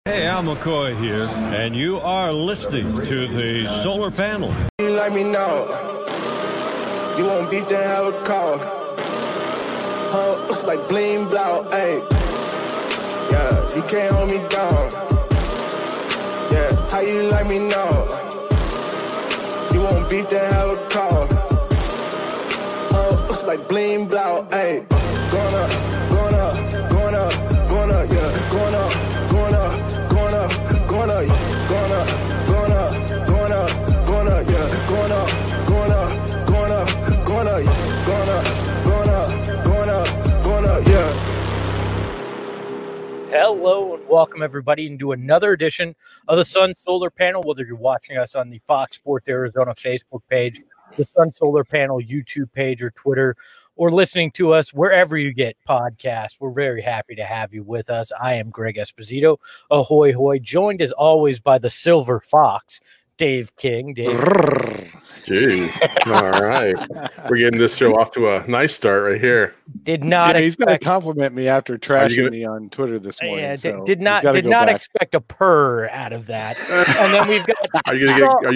Hey, Al McCoy here, and you are listening to the Solar Panel. You like me now. You want beef, then have a call. Huh, looks like bling blow, ayy. Yeah, you can't hold me down. Yeah, how you like me now? You want beef, then have a call. Huh, looks like bling blow, ayy. Going up, going up, going up, going up, yeah, going up, going up, going up, going up, going up, going up, going up, going up, yeah, going up, going up, going up, going up, going up, going up, going up, going up, yeah. Hello and welcome everybody into another edition of the Sun Solar Panel, whether you're watching us on the Fox Sports Arizona Facebook page, the Sun Solar Panel YouTube page or Twitter, or listening to us wherever you get podcasts. We're very happy to have you with us. I am Greg Esposito, ahoy hoy, joined as always by the Silver Fox, Dave King. Dave. Jeez. All right. We're getting this show off to a nice start right here. Did not he's going to expect compliment me after trashing me on Twitter this morning. Yeah, so did not expect a purr out of that. And then we've got. Are you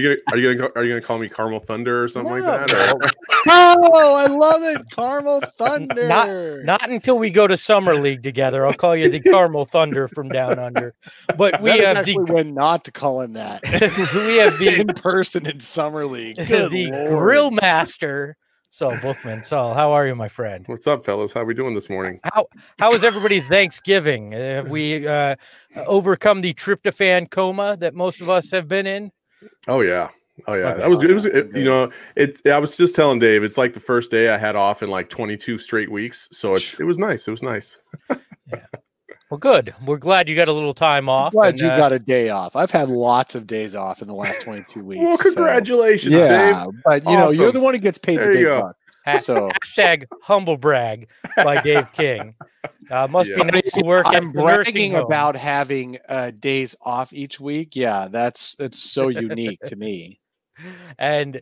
gonna call me Caramel Thunder or something like that? Or? Oh, I love it, Caramel Thunder. Not until we go to Summer League together. I'll call you the Caramel Thunder from down under. But we have actually when not to call him that. We have the in person in Summer League. Good the Lord. Grill Master. Saul Bookman. Saul, how are you, my friend? What's up, fellas? How are we doing this morning? How was everybody's Thanksgiving? Have we overcome the tryptophan coma that most of us have been in? Oh yeah. That was good. I was just telling Dave, it's like the first day I had off in like 22 straight weeks. So it was nice. It was nice. Yeah. Well, good. We're glad you got a little time off. Glad you got a day off. I've had lots of days off in the last 22 weeks. Well, congratulations, Dave. But awesome. You're the one who gets paid the big bucks. So hashtag humble brag by Dave King. Must be nice to work. I'm bragging about having days off each week. Yeah, it's so unique to me. And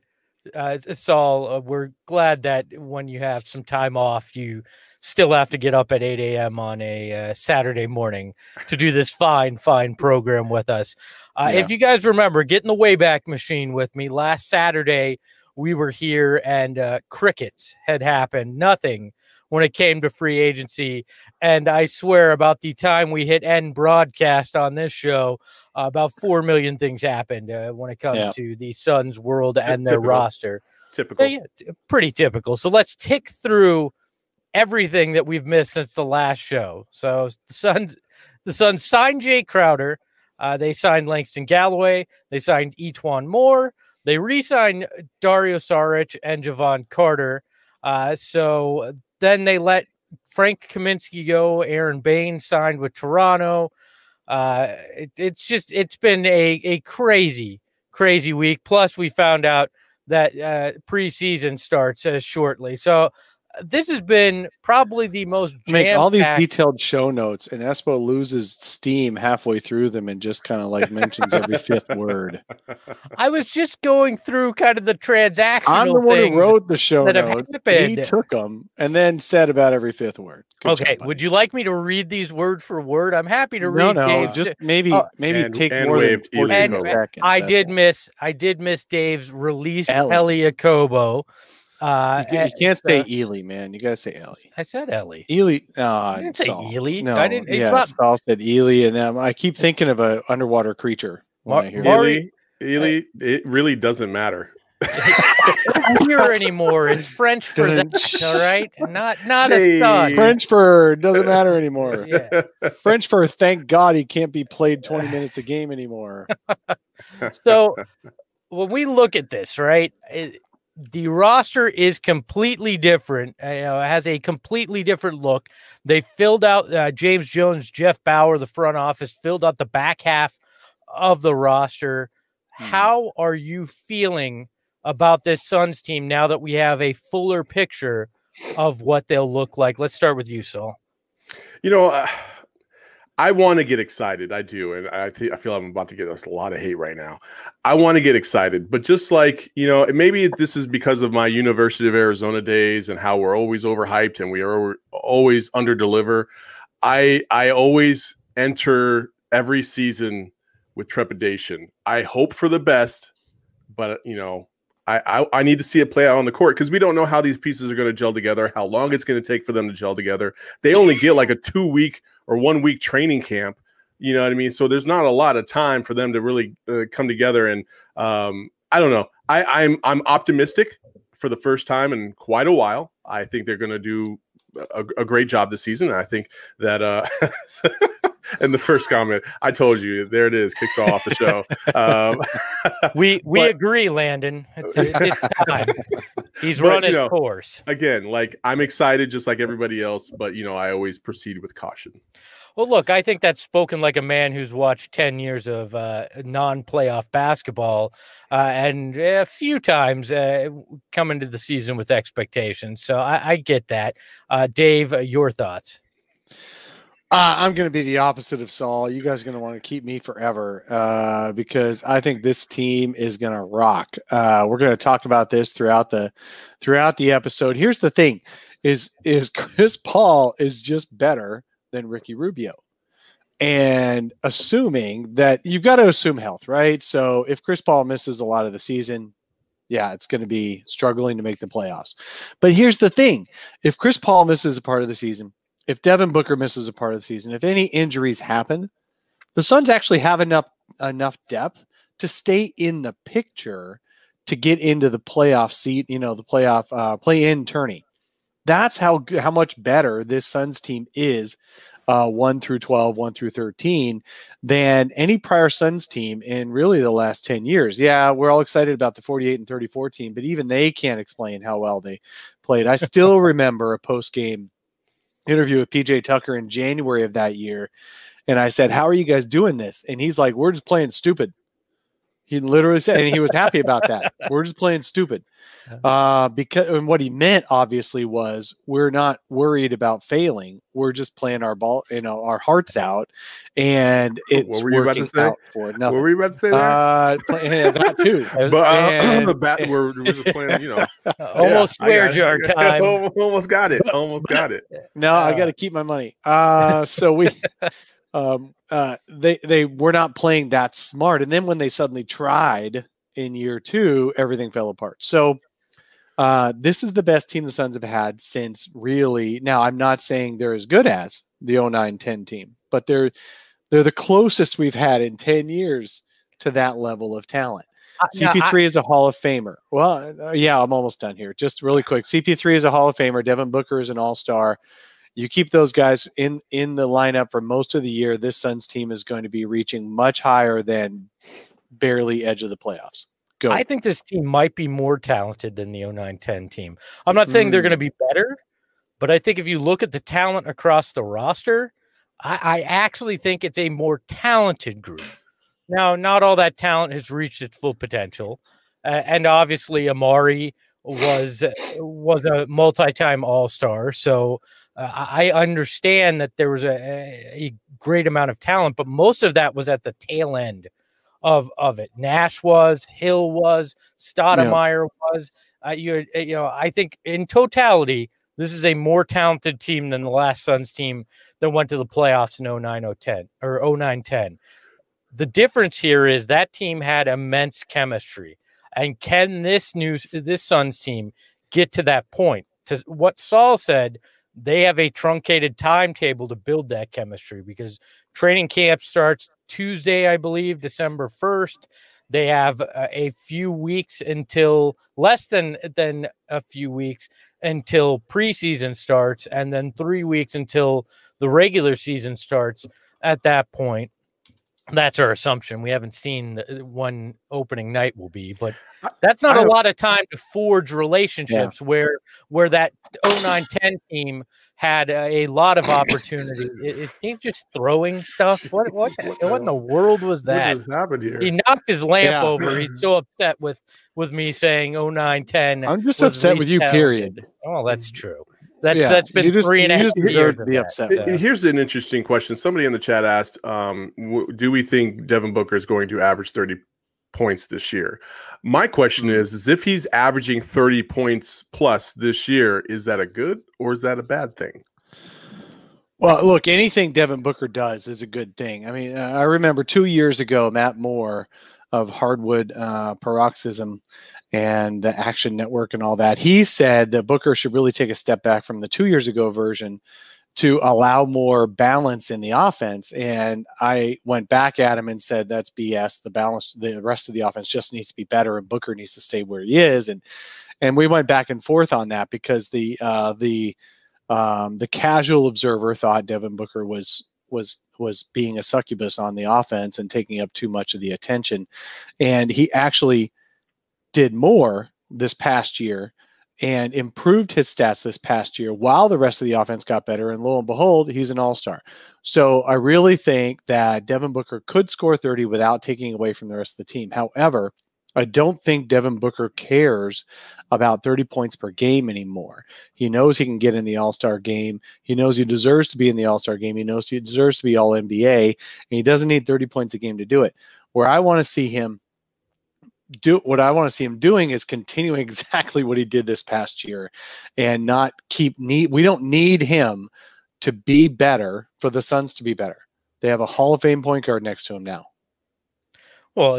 Saul, we're glad that when you have some time off, you still have to get up at 8 a.m. on a Saturday morning to do this fine program with us. If you guys remember, get in the Wayback Machine with me. Last Saturday, we were here and crickets had happened. Nothing when it came to free agency. And I swear about the time we hit end broadcast on this show, about 4 million things happened when it comes to the Suns world and their roster. Typical. Pretty typical. So let's tick through everything that we've missed since the last show. So the Suns signed Jay Crowder. They signed Langston Galloway. They signed E'Twaun Moore. They re-signed Dario Saric and Javon Carter. So then they let Frank Kaminsky go. Aaron Bain signed with Toronto. It's been a crazy week. Plus, we found out that preseason starts shortly. So this has been probably the most make all these detailed show notes, and Espo loses steam halfway through them and just kind of like mentions every fifth word. I was just going through kind of the transactional I'm the one who wrote the show notes. He took them and then said about every fifth word. Good job, would you like me to read these word for word? I'm happy to read. No, just maybe take more than 14 seconds. I did miss Dave's release Ellie Akobo. You can't say Ely, man. You gotta say Ellie. I said Ellie. Ely. I didn't say Ely. No, I didn't. Saul said Ely, and I keep thinking of an underwater creature. Ely. It really doesn't matter. Don't hear anymore. It's French for that. All right, not a son. French for doesn't matter anymore. French for thank God he can't be played 20 minutes a game anymore. So when we look at this, right? The roster is completely different. It has a completely different look. They filled out James Jones, Jeff Bauer, the front office, filled out the back half of the roster. How are you feeling about this Suns team now that we have a fuller picture of what they'll look like? Let's start with you, Saul. I want to get excited. I do. And I feel I'm about to get a lot of hate right now. I want to get excited. But just like, maybe this is because of my University of Arizona days and how we're always overhyped and we are always underdeliver. I always enter every season with trepidation. I hope for the best, but I need to see it play out on the court because we don't know how these pieces are going to gel together, how long it's going to take for them to gel together. They only get like a 2-week or 1-week training camp. You know what I mean? So there's not a lot of time for them to really come together. And I don't know. I'm optimistic for the first time in quite a while. I think they're going to do a great job this season. And I think that and the first comment, I told you, there it is, kicks off the show. We agree, Landon. It's time. He's run his course. Again, like I'm excited just like everybody else, but I always proceed with caution. Well, look, I think that's spoken like a man who's watched 10 years of non-playoff basketball and a few times come into the season with expectations. So I get that. Dave, your thoughts? I'm going to be the opposite of Saul. You guys are going to want to keep me forever because I think this team is going to rock. We're going to talk about this throughout the episode. Here's the thing: is Chris Paul is just better than Ricky Rubio. And assuming that you've got to assume health, right? So if Chris Paul misses a lot of the season, yeah, it's going to be struggling to make the playoffs. But here's the thing. If Chris Paul misses a part of the season, if Devin Booker misses a part of the season, if any injuries happen, the Suns actually have enough depth to stay in the picture to get into the playoff seat, the playoff play-in tourney. That's how much better this Suns team is, 1 through 12, 1 through 13, than any prior Suns team in really the last 10 years. Yeah, we're all excited about the 48 and 34 team, but even they can't explain how well they played. I still remember a post-game interview with PJ Tucker in January of that year, and I said, "How are you guys doing this?" And he's like, "We're just playing stupid." He literally said, and he was happy about that. We're just playing stupid. And what he meant obviously was we're not worried about failing. We're just playing our ball, our hearts out, and it's working out for it. What were you about to say there? That too. But the bat, we're just playing, almost swear jar time. Almost got it. No, I got to keep my money. So we. They were not playing that smart. And then when they suddenly tried in year 2, everything fell apart. So this is the best team the Suns have had since really. Now, I'm not saying they're as good as the 09-10 team, but they're the closest we've had in 10 years to that level of talent. CP3 is a Hall of Famer. Well, yeah, I'm almost done here. Just really quick. CP3 is a Hall of Famer. Devin Booker is an all-star. You keep those guys in the lineup for most of the year, this Suns team is going to be reaching much higher than barely edge of the playoffs. Go. I think this team might be more talented than the 09-10 team. I'm not saying they're going to be better, but I think if you look at the talent across the roster, I actually think it's a more talented group. Now, not all that talent has reached its full potential. And obviously Amari was a multi-time all-star. So I understand that there was a great amount of talent, but most of that was at the tail end of it. Nash was, Hill was, Stoudemire was. I think in totality, this is a more talented team than the last Suns team that went to the playoffs in 09-10 or 09-10. The difference here is that team had immense chemistry. And can this Suns team get to that point? To what Saul said, they have a truncated timetable to build that chemistry because training camp starts Tuesday, I believe, December 1st. They have a few weeks until less than a few weeks until preseason starts, and then 3 weeks until the regular season starts. At that point, that's our assumption. We haven't seen when opening night will be, but that's not a lot of time to forge relationships where that 09-10 team had a lot of opportunity. Is Dave just throwing stuff? What in the world was that? What just happened here? He knocked his lamp over. He's so upset with me saying 09-10. I'm just upset with you, period. Oh, that's true. That's been 3.5 years. Be upset. Here's an interesting question. Somebody in the chat asked, do we think Devin Booker is going to average 30 points this year? My question is if he's averaging 30 points plus this year, is that a good or is that a bad thing? Well, look, anything Devin Booker does is a good thing. I mean, I remember 2 years ago, Matt Moore of Hardwood Paroxysm and the Action Network and all that, he said that Booker should really take a step back from the 2 years ago version to allow more balance in the offense. And I went back at him and said, that's BS. The rest of the offense just needs to be better, and Booker needs to stay where he is. And we went back and forth on that because the casual observer thought Devin Booker was being a succubus on the offense and taking up too much of the attention. And he actually did more this past year and improved his stats this past year while the rest of the offense got better. And lo and behold, he's an all-star. So I really think that Devin Booker could score 30 without taking away from the rest of the team. However, I don't think Devin Booker cares about 30 points per game anymore. He knows he can get in the all-star game. He knows he deserves to be in the all-star game. He knows he deserves to be all NBA, and he doesn't need 30 points a game to do it. What I want to see him doing is continuing exactly what he did this past year and not we don't need him to be better for the Suns to be better. They have a Hall of Fame point guard next to him now. Well,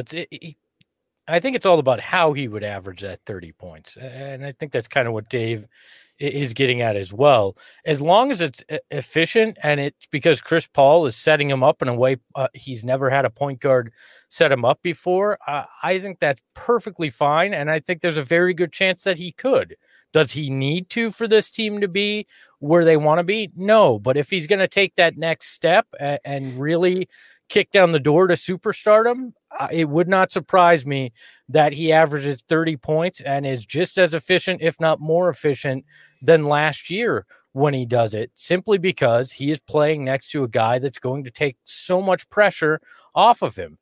I think it's all about how he would average that 30 points. And I think that's kind of what Dave is getting at as well. As long as it's efficient and it's because Chris Paul is setting him up in a way he's never had a point guard set him up before, I think that's perfectly fine. And I think there's a very good chance that he could. Does he need to for this team to be where they want to be? No. But if he's going to take that next step and really kick down the door to superstardom, it would not surprise me that he averages 30 points and is just as efficient, if not more efficient, than last year when he does it, simply because he is playing next to a guy that's going to take so much pressure off of him.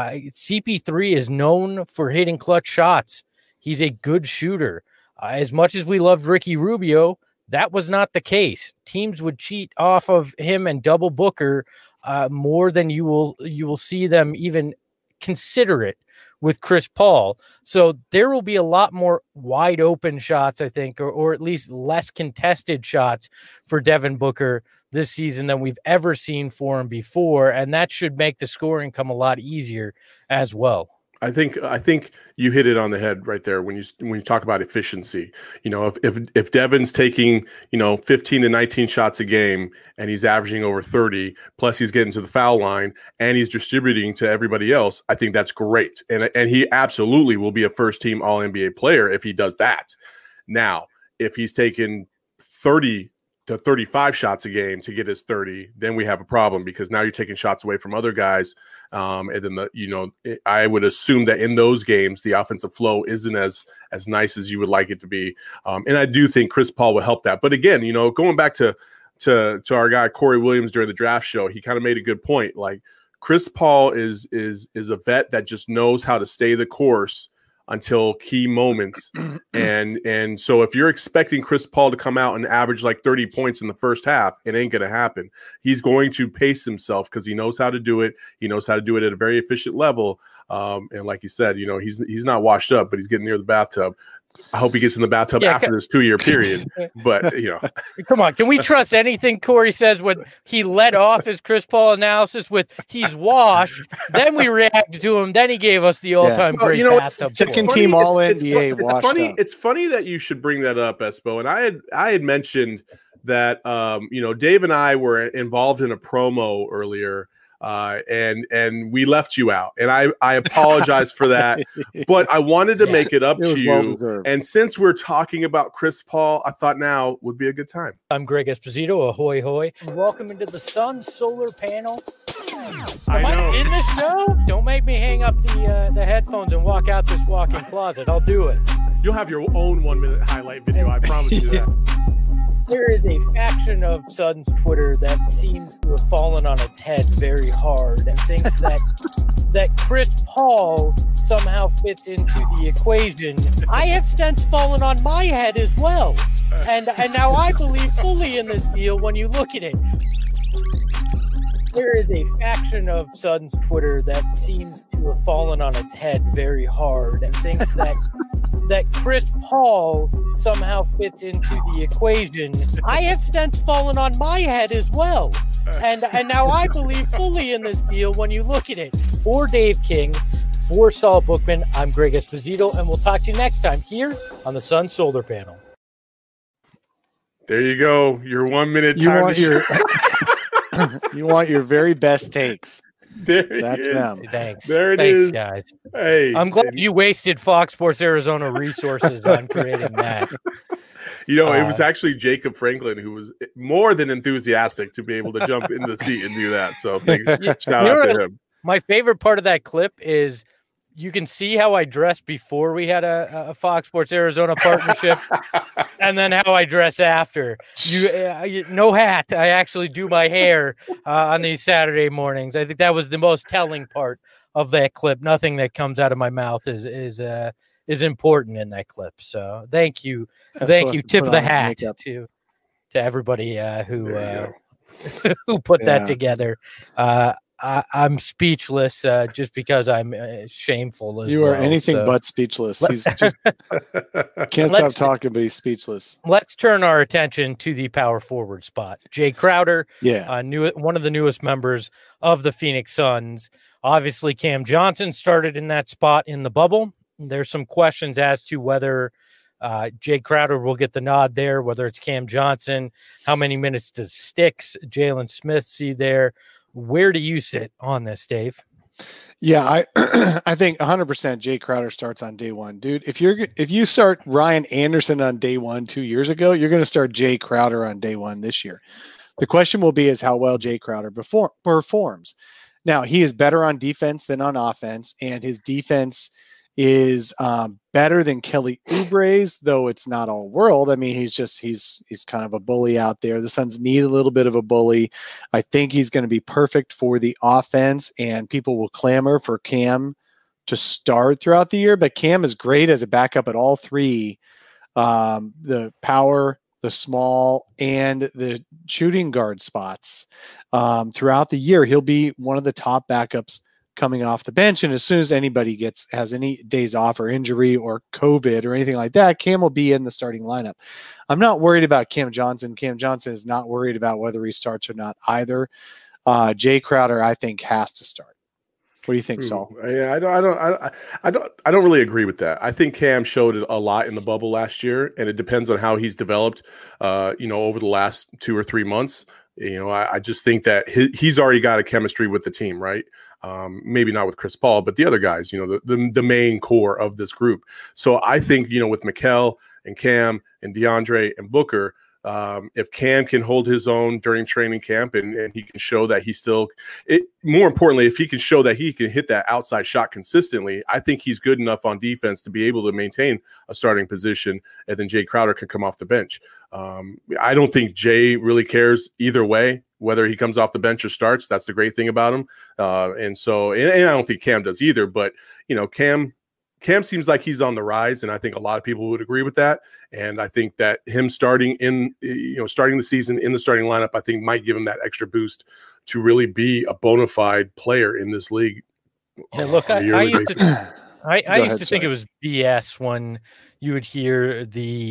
CP3 is known for hitting clutch shots. He's a good shooter. As much as we loved Ricky Rubio, that was not the case. Teams would cheat off of him and double Booker more than you will see them even consider it with Chris Paul. So there will be a lot more wide open shots, I think, or at least less contested shots for Devin Booker this season than we've ever seen for him before. And that should make the scoring come a lot easier as well. I think you hit it on the head right there when you talk about efficiency. You know, if Devin's taking, 15 to 19 shots a game and he's averaging over 30, plus he's getting to the foul line and he's distributing to everybody else, I think that's great. And he absolutely will be a first team all NBA player if he does that. Now, if he's taking 30 to 35 shots a game to get his 30, then we have a problem because now you're taking shots away from other guys. And then I would assume that in those games, the offensive flow isn't as nice as you would like it to be. And I do think Chris Paul will help that. But again, going back to our guy, Corey Williams during the draft show, he kind of made a good point. Like Chris Paul is a vet that just knows how to stay the course until key moments. And so if you're expecting Chris Paul to come out and average like 30 points in the first half, it ain't going to happen. He's going to pace himself because he knows how to do it. He knows how to do it at a very efficient level. And like you said, he's not washed up, but he's getting near the bathtub. I hope he gets in the bathtub after this 2-year period. But, Come on. Can we trust anything Corey says when he led off his Chris Paul analysis with he's washed? Then we reacted to him. Then he gave us the all-time great bathtub. Second team All-NBA washed up. It's funny that you should bring that up, Espo. And I had mentioned that, Dave and I were involved in a promo earlier. And we left you out, and I apologize for that, but I wanted to make it up to you. Well-deserved. And since we're talking about Chris Paul, I thought now would be a good time. I'm Greg Esposito. Ahoy, hoy. Welcome into the Sun Solar Panel. I know. In the show? Don't make me hang up the headphones and walk out this walk-in closet. I'll do it. You'll have your own 1-minute highlight video. I promise you that. There is a faction of Suns Twitter that seems to have fallen on its head very hard and thinks that Chris Paul somehow fits into the equation. I have since fallen on my head as well. And now I believe fully in this deal when you look at it. There is a faction of Suns Twitter that seems to have fallen on its head very hard and thinks that that Chris Paul somehow fits into the equation, I have since fallen on my head as well. And now I believe fully in this deal when you look at it. For Dave King, for Saul Bookman, I'm Greg Esposito, and we'll talk to you next time here on the Sun Solar Panel. There you go. Your 1 minute time. You want your very best takes. That's them. Thanks. There it Thanks, is. guys. Hey, I'm glad you wasted Fox Sports Arizona resources on creating that. It was actually Jacob Franklin who was more than enthusiastic to be able to jump in the seat and do that. So shout out to him. My favorite part of that clip is you can see how I dressed before we had a Fox Sports Arizona partnership, and then how I dress after. No hat. I actually do my hair on these Saturday mornings. I think that was the most telling part of that clip. Nothing that comes out of my mouth is important in that clip. So thank you. Tip of the hat to everybody who put that together. I'm speechless just because I'm shameful as you well. You are anything but speechless. He's just can't stop talking, but he's speechless. Let's turn our attention to the power forward spot. Jay Crowder, one of the newest members of the Phoenix Suns. Obviously, Cam Johnson started in that spot in the bubble. There's some questions as to whether Jay Crowder will get the nod there, whether it's Cam Johnson. How many minutes does Sticks, Jalen Smith see there? Where do you sit on this, Dave? Yeah, I think 100% Jay Crowder starts on day one. Dude, if you start Ryan Anderson on day one 2 years ago, you're going to start Jay Crowder on day one this year. The question will be is how well Jay Crowder performs. Now, he is better on defense than on offense, and his defense is better than Kelly Oubre's, though it's not all world. I mean, he's kind of a bully out there. The Suns need a little bit of a bully. I think he's going to be perfect for the offense, and people will clamor for Cam to start throughout the year. But Cam is great as a backup at all three, the power, the small, and the shooting guard spots. Throughout the year, he'll be one of the top backups coming off the bench. And as soon as anybody has any days off or injury or COVID or anything like that, Cam will be in the starting lineup. I'm not worried about Cam Johnson. Cam Johnson is not worried about whether he starts or not either. Jay Crowder, I think, has to start. What do you think, Saul? Yeah, I don't really agree with that. I think Cam showed it a lot in the bubble last year, and it depends on how he's developed, over the last 2 or 3 months. I just think that he's already got a chemistry with the team, right? Maybe not with Chris Paul, but the other guys, the main core of this group. So I think, with Mikal and Cam and DeAndre and Booker, if Cam can hold his own during training camp and he can show that more importantly, if he can show that he can hit that outside shot consistently, I think he's good enough on defense to be able to maintain a starting position, and then Jay Crowder can come off the bench. I don't think Jay really cares either way, whether he comes off the bench or starts. That's the great thing about him. And I don't think Cam does either, but Cam seems like he's on the rise, and I think a lot of people would agree with that. And I think that him starting the season in the starting lineup, I think might give him that extra boost to really be a bona fide player in this league. Yeah, look, I used to think it was BS when you would hear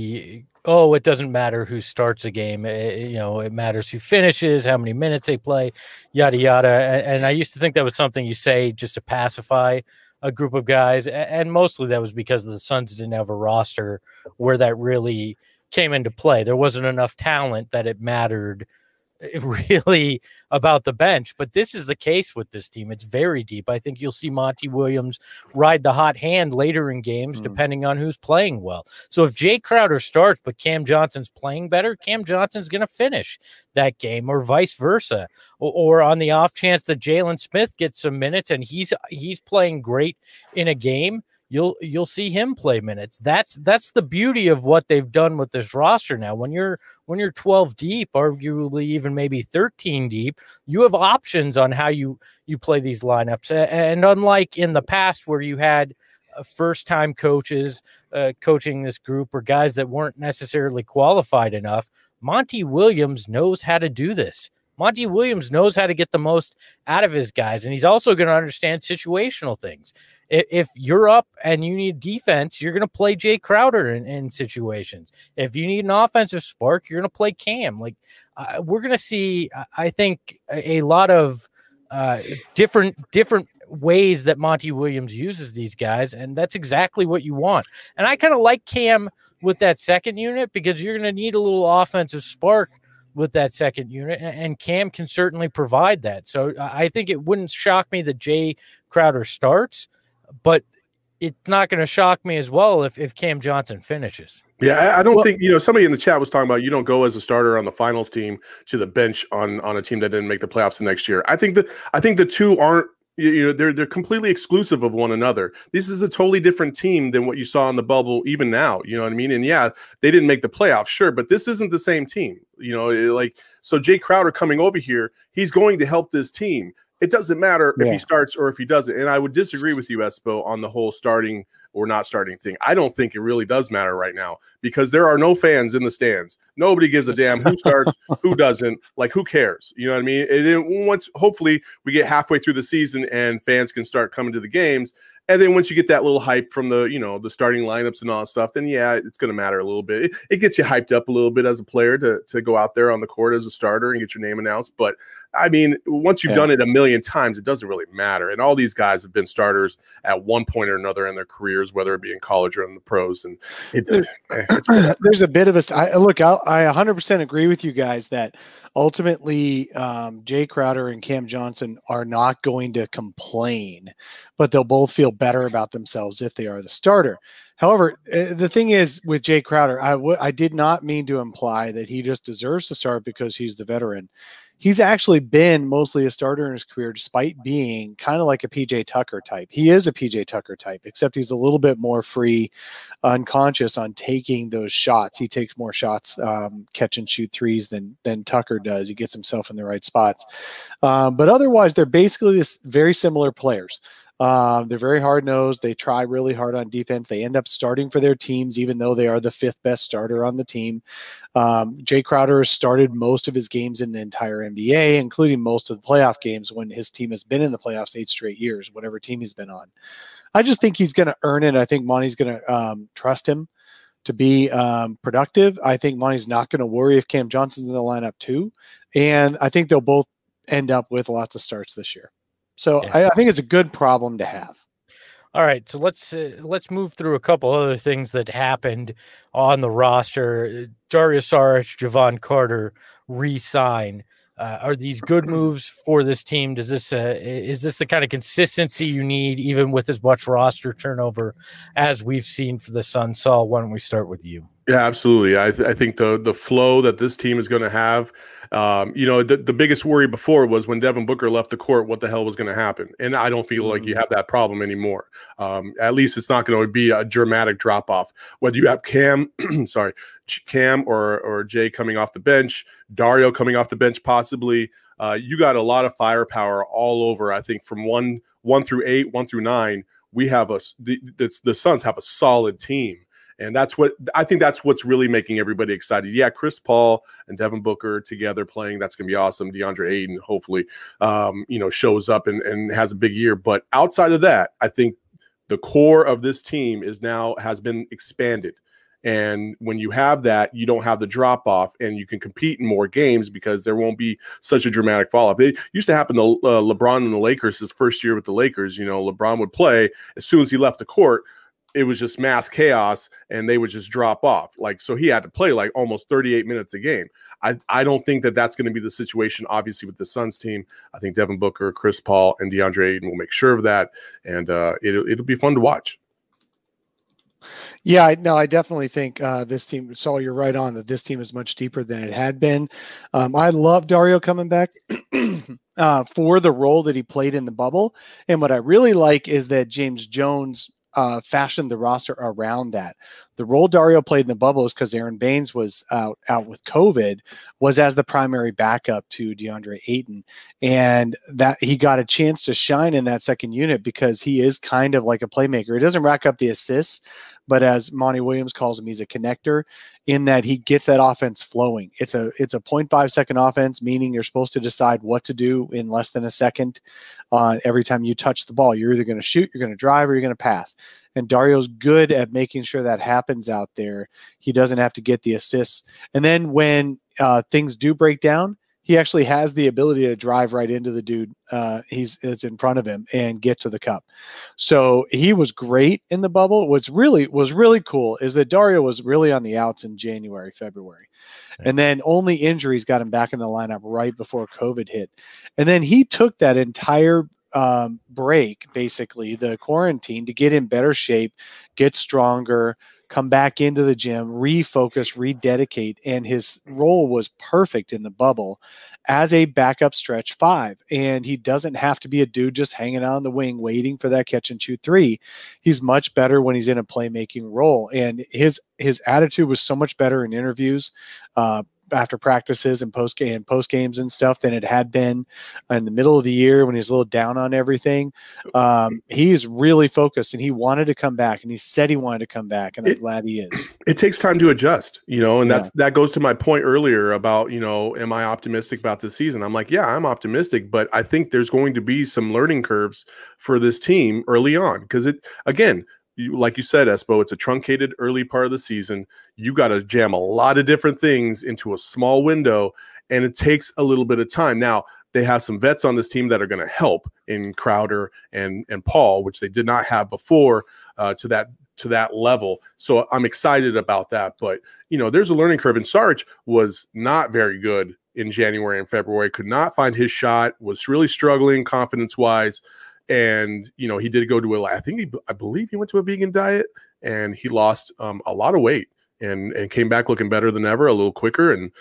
it doesn't matter who starts a game. It matters who finishes, how many minutes they play, yada, yada. And I used to think that was something you say just to pacify a group of guys. And mostly that was because the Suns didn't have a roster where that really came into play. There wasn't enough talent that it mattered really about the bench, but this is the case with this team. It's very deep. I think you'll see Monty Williams ride the hot hand later in games, depending on who's playing well. So if Jay Crowder starts, but Cam Johnson's playing better, Cam Johnson's going to finish that game, or vice versa. Or on the off chance that Jalen Smith gets some minutes and he's playing great in a game, you'll see him play minutes. That's the beauty of what they've done with this roster now. When you're 12 deep, arguably even maybe 13 deep, you have options on how you play these lineups. And unlike in the past where you had first-time coaches coaching this group or guys that weren't necessarily qualified enough, Monty Williams knows how to do this. Monty Williams knows how to get the most out of his guys, and he's also going to understand situational things. If you're up and you need defense, you're going to play Jay Crowder in situations. If you need an offensive spark, you're going to play Cam. Like we're going to see, I think, a lot of different ways that Monty Williams uses these guys, and that's exactly what you want. And I kind of like Cam with that second unit because you're going to need a little offensive spark with that second unit, and Cam can certainly provide that. So I think it wouldn't shock me that Jay Crowder starts, but it's not going to shock me as well if Cam Johnson finishes. Yeah, I don't think, somebody in the chat was talking about you don't go as a starter on the finals team to the bench on a team that didn't make the playoffs the next year. I think the two aren't, they're completely exclusive of one another. This is a totally different team than what you saw in the bubble, even now. You know what I mean? And yeah, they didn't make the playoffs, sure, but this isn't the same team. So Jay Crowder coming over here, he's going to help this team. It doesn't matter if he starts or if he doesn't. And I would disagree with you, Espo, on the whole starting or not starting thing. I don't think it really does matter right now because there are no fans in the stands. Nobody gives a damn who starts, who doesn't. Like, who cares? You know what I mean? And then hopefully we get halfway through the season and fans can start coming to the games. And then once you get that little hype from the starting lineups and all that stuff, then yeah, it's going to matter a little bit. It gets you hyped up a little bit as a player to go out there on the court as a starter and get your name announced. But I mean, once you've done it a million times, it doesn't really matter. And all these guys have been starters at one point or another in their careers, whether it be in college or in the pros. And there's a bit of I 100% agree with you guys that ultimately Jay Crowder and Cam Johnson are not going to complain, but they'll both feel better about themselves if they are the starter. However, the thing is with Jay Crowder, I did not mean to imply that he just deserves to start because he's the veteran. He's actually been mostly a starter in his career, despite being kind of like a PJ Tucker type. He is a PJ Tucker type, except he's a little bit more free, unconscious on taking those shots. He takes more shots, catch and shoot threes than Tucker does. He gets himself in the right spots. But otherwise, they're basically very similar players. They're very hard-nosed. They try really hard on defense. They end up starting for their teams, even though they are the fifth best starter on the team. Jay Crowder has started most of his games in the entire NBA, including most of the playoff games when his team has been in the playoffs 8 straight years, whatever team he's been on. I just think he's going to earn it. I think Monty's going to trust him to be productive. I think Monty's not going to worry if Cam Johnson's in the lineup too. And I think they'll both end up with lots of starts this year. So I think it's a good problem to have. All right, so let's move through a couple other things that happened on the roster. Dario Saric, Javon Carter re-sign. Are these good moves for this team? Is this the kind of consistency you need, even with as much roster turnover as we've seen for the Suns? Saul, why don't we start with you? Yeah, absolutely. I think the flow that this team is going to have, the biggest worry before was when Devin Booker left the court, what the hell was going to happen? And I don't feel like you have that problem anymore. At least it's not going to be a dramatic drop off. Whether you have Cam or Jay coming off the bench, Dario coming off the bench, possibly, you got a lot of firepower all over. I think from 1 through 8, 1 through 9, we have the Suns have a solid team. And that's what's really making everybody excited. Yeah, Chris Paul and Devin Booker together playing, that's going to be awesome. DeAndre Ayton hopefully, shows up and has a big year. But outside of that, I think the core of this team has been expanded. And when you have that, you don't have the drop off and you can compete in more games because there won't be such a dramatic fall off. It used to happen to LeBron and the Lakers his first year with the Lakers. LeBron would play as soon as he left the court. It was just mass chaos and they would just drop off. So he had to play like almost 38 minutes a game. I don't think that that's going to be the situation, obviously, with the Suns team. I think Devin Booker, Chris Paul, and DeAndre Ayton will make sure of that. And it'll be fun to watch. Yeah, I definitely think this team, Saul, you're right on that this team is much deeper than it had been. I love Dario coming back for the role that he played in the bubble. And what I really like is that James Jones fashioned the roster around that. The role Dario played in the bubble is because Aaron Baines was out with COVID, was as the primary backup to DeAndre Ayton. And that he got a chance to shine in that second unit because he is kind of like a playmaker. He doesn't rack up the assists, but as Monty Williams calls him, he's a connector in that he gets that offense flowing. It's a 0.5 second offense, meaning you're supposed to decide what to do in less than a second every time you touch the ball. You're either going to shoot, you're going to drive, or you're going to pass. And Dario's good at making sure that happens out there. He doesn't have to get the assists. And then when things do break down, he actually has the ability to drive right into the dude it's in front of him and get to the cup. So he was great in the bubble. What's really cool is that Dario was really on the outs in January, February. And then only injuries got him back in the lineup right before COVID hit. And then he took that entire break, basically the quarantine, to get in better shape, get stronger, come back into the gym, refocus, rededicate. And his role was perfect in the bubble as a backup stretch 5. And he doesn't have to be a dude just hanging out on the wing, waiting for that catch and shoot 3. He's much better when he's in a playmaking role. And his attitude was so much better in interviews, after practices and post games and stuff than it had been in the middle of the year when he was a little down on everything. He's really focused and he wanted to come back, and he said he wanted to come back, and I'm glad he is. It takes time to adjust, and that goes to my point earlier about, am I optimistic about this season? I'm like, yeah, I'm optimistic, but I think there's going to be some learning curves for this team early on. Cause like you said, Espo, it's a truncated early part of the season. You got to jam a lot of different things into a small window, and it takes a little bit of time. Now, they have some vets on this team that are going to help in Crowder and Paul, which they did not have before to that level. So I'm excited about that. But, there's a learning curve, and Sarge was not very good in January and February, could not find his shot, was really struggling confidence-wise. And, he did go to I believe he went to a vegan diet, and he lost a lot of weight and came back looking better than ever, a little quicker. And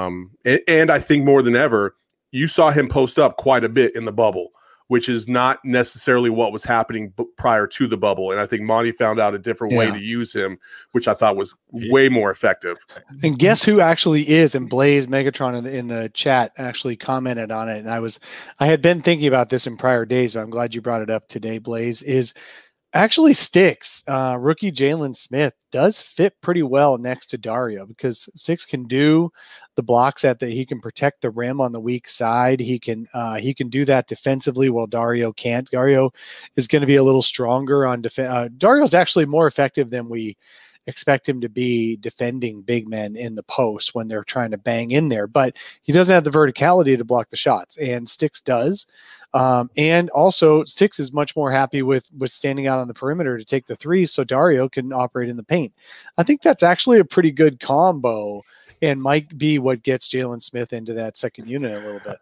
I think more than ever, you saw him post up quite a bit in the bubble, which is not necessarily what was happening prior to the bubble. And I think Monty found out a different way to use him, which I thought was way more effective. And guess who actually is? And Blaze Megatron in the chat actually commented on it. And I had been thinking about this in prior days, but I'm glad you brought it up today, Blaze, is actually Sticks. Rookie Jalen Smith does fit pretty well next to Dario, because Sticks can do the blocks he can protect the rim on the weak side. He can do that defensively while Dario can't. Dario is going to be a little stronger on defense. Dario's actually more effective than we expect him to be defending big men in the post when they're trying to bang in there, but he doesn't have the verticality to block the shots, and Sticks does. And also Sticks is much more happy with standing out on the perimeter to take the threes, so Dario can operate in the paint. I think that's actually a pretty good combo, and might be what gets Jalen Smith into that second unit a little bit.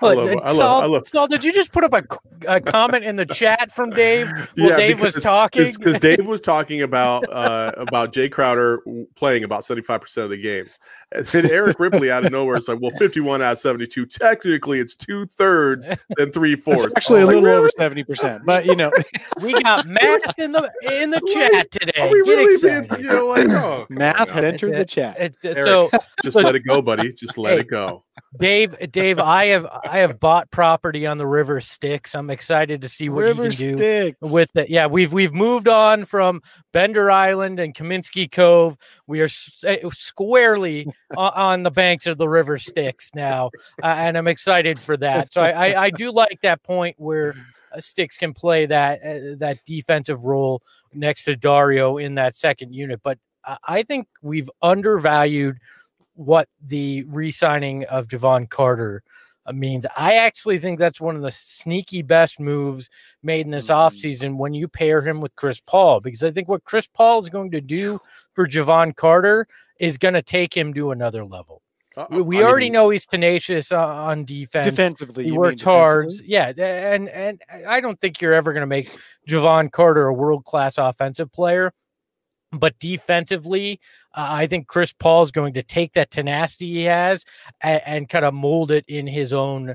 Saul, did you just put up a comment in the chat from Dave while Dave was talking? Because Dave was talking about Jay Crowder playing about 75% of the games. And then Eric Ripley out of nowhere is like, well, 51 out of 72. Technically, it's 2/3 and 3/4. It's actually a little over 70%. But we got math in the chat today. Are we really math had entered the chat. Eric, just let it go, buddy. Just let it go. Dave, I have bought property on the River Styx. I'm excited to see what you can do with it. Yeah, we've moved on from Bender Island and Kaminsky Cove. We are squarely on the banks of the River Styx now, and I'm excited for that. So I do like that point where Styx can play that defensive role next to Dario in that second unit. But I think we've undervalued what the re-signing of Jevon Carter means. I actually think that's one of the sneaky best moves made in this offseason when you pair him with Chris Paul, because I think what Chris Paul is going to do for Jevon Carter is going to take him to another level. We already know he's tenacious on defense. Defensively, he works hard. Yeah, and I don't think you're ever going to make Jevon Carter a world-class offensive player. But defensively, I think Chris Paul is going to take that tenacity he has and kind of mold it in his own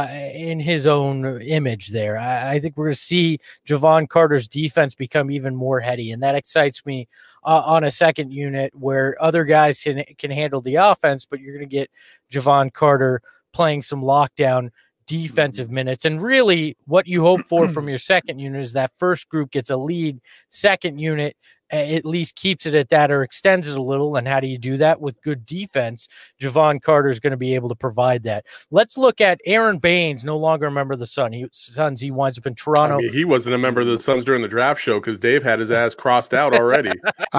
image there. I think we're going to see Javon Carter's defense become even more heady, and that excites me on a second unit where other guys can handle the offense, but you're going to get Javon Carter playing some lockdown defensive minutes. And really what you hope for from your second unit is that first group gets a lead, second unit at least keeps it at that or extends it a little. And how do you do that? With good defense. Javon Carter is going to be able to provide that. Let's look at Aaron Baines, no longer a member of the Suns. He winds up in Toronto. I mean, he wasn't a member of the Suns during the draft show because Dave had his ass crossed out already.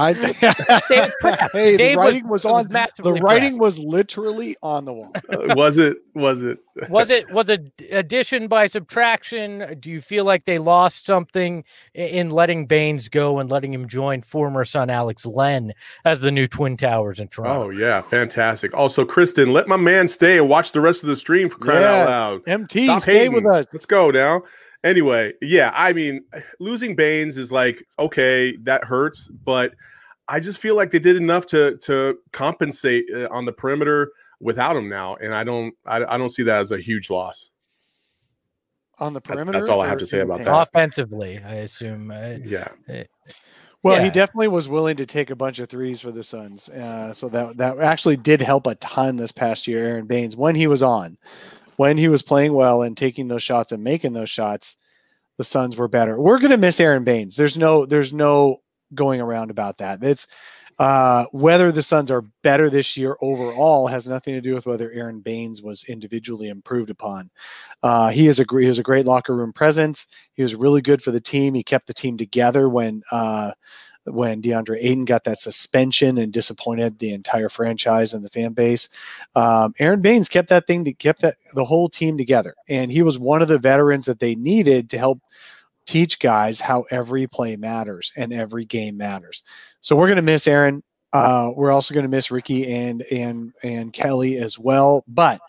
The writing was on. The writing was literally on the wall. Was it? Was it addition by subtraction? Do you feel like they lost something in letting Baines go and letting him join former son Alex Len as the new Twin Towers in Toronto? Oh yeah, fantastic. Also, Kristen, let my man stay and watch the rest of the stream for crying out loud. MT, Stop stay hating. with us. Let's go now. Anyway, yeah, I mean, losing Baines is like, okay, that hurts, but I just feel like they did enough to compensate on the perimeter without him now, and I don't see that as a huge loss. On the perimeter? That's all I have to say about that. Offensively, I assume. Well, he definitely was willing to take a bunch of threes for the Suns. So that actually did help a ton this past year, Aaron Baines, when he was playing well and taking those shots and making those shots, the Suns were better. We're going to miss Aaron Baines. There's no going around about that. It's whether the Suns are better this year overall has nothing to do with whether Aaron Baines was individually improved upon. He was a great locker room presence. He was really good for the team. He kept the team together when DeAndre Ayton got that suspension and disappointed the entire franchise and the fan base. Aaron Baines kept the whole team together, and he was one of the veterans that they needed to help teach guys how every play matters and every game matters. So we're going to miss Aaron. We're also going to miss Ricky and Kelly as well, but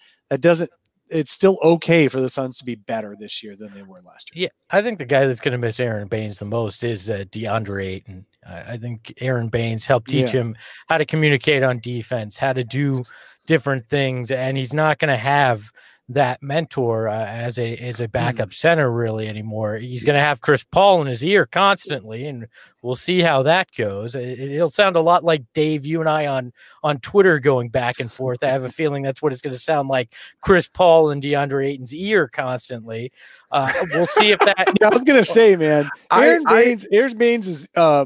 it's still okay for the Suns to be better this year than they were last year. Yeah, I think the guy that's going to miss Aaron Baines the most is DeAndre Ayton. I think Aaron Baines helped teach him how to communicate on defense, how to do different things, and he's not going to have that mentor as a backup center really anymore. He's going to have Chris Paul in his ear constantly, and we'll see how that goes. It'll sound a lot like Dave, you and I on Twitter going back and forth. I have a feeling that's what it's going to sound like, Chris Paul and DeAndre Ayton's ear constantly. We'll see if that. Yeah, I was going to say, man, Aaron Baines'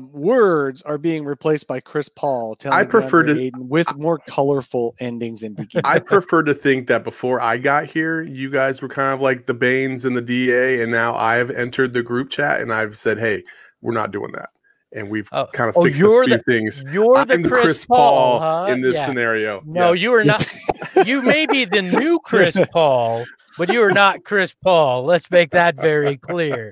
words are being replaced by Chris Paul telling DeAndre Ayton with more colorful endings and beginnings. I prefer to think that before I got here, you guys were kind of like the Baines and the DA, and now I've entered the group chat and I've said, hey, we're not doing that. And we've kind of fixed a few things. You're the Chris Paul huh? in this scenario. No, yes. You are not. You may be the new Chris Paul, but you are not Chris Paul. Let's make that very clear.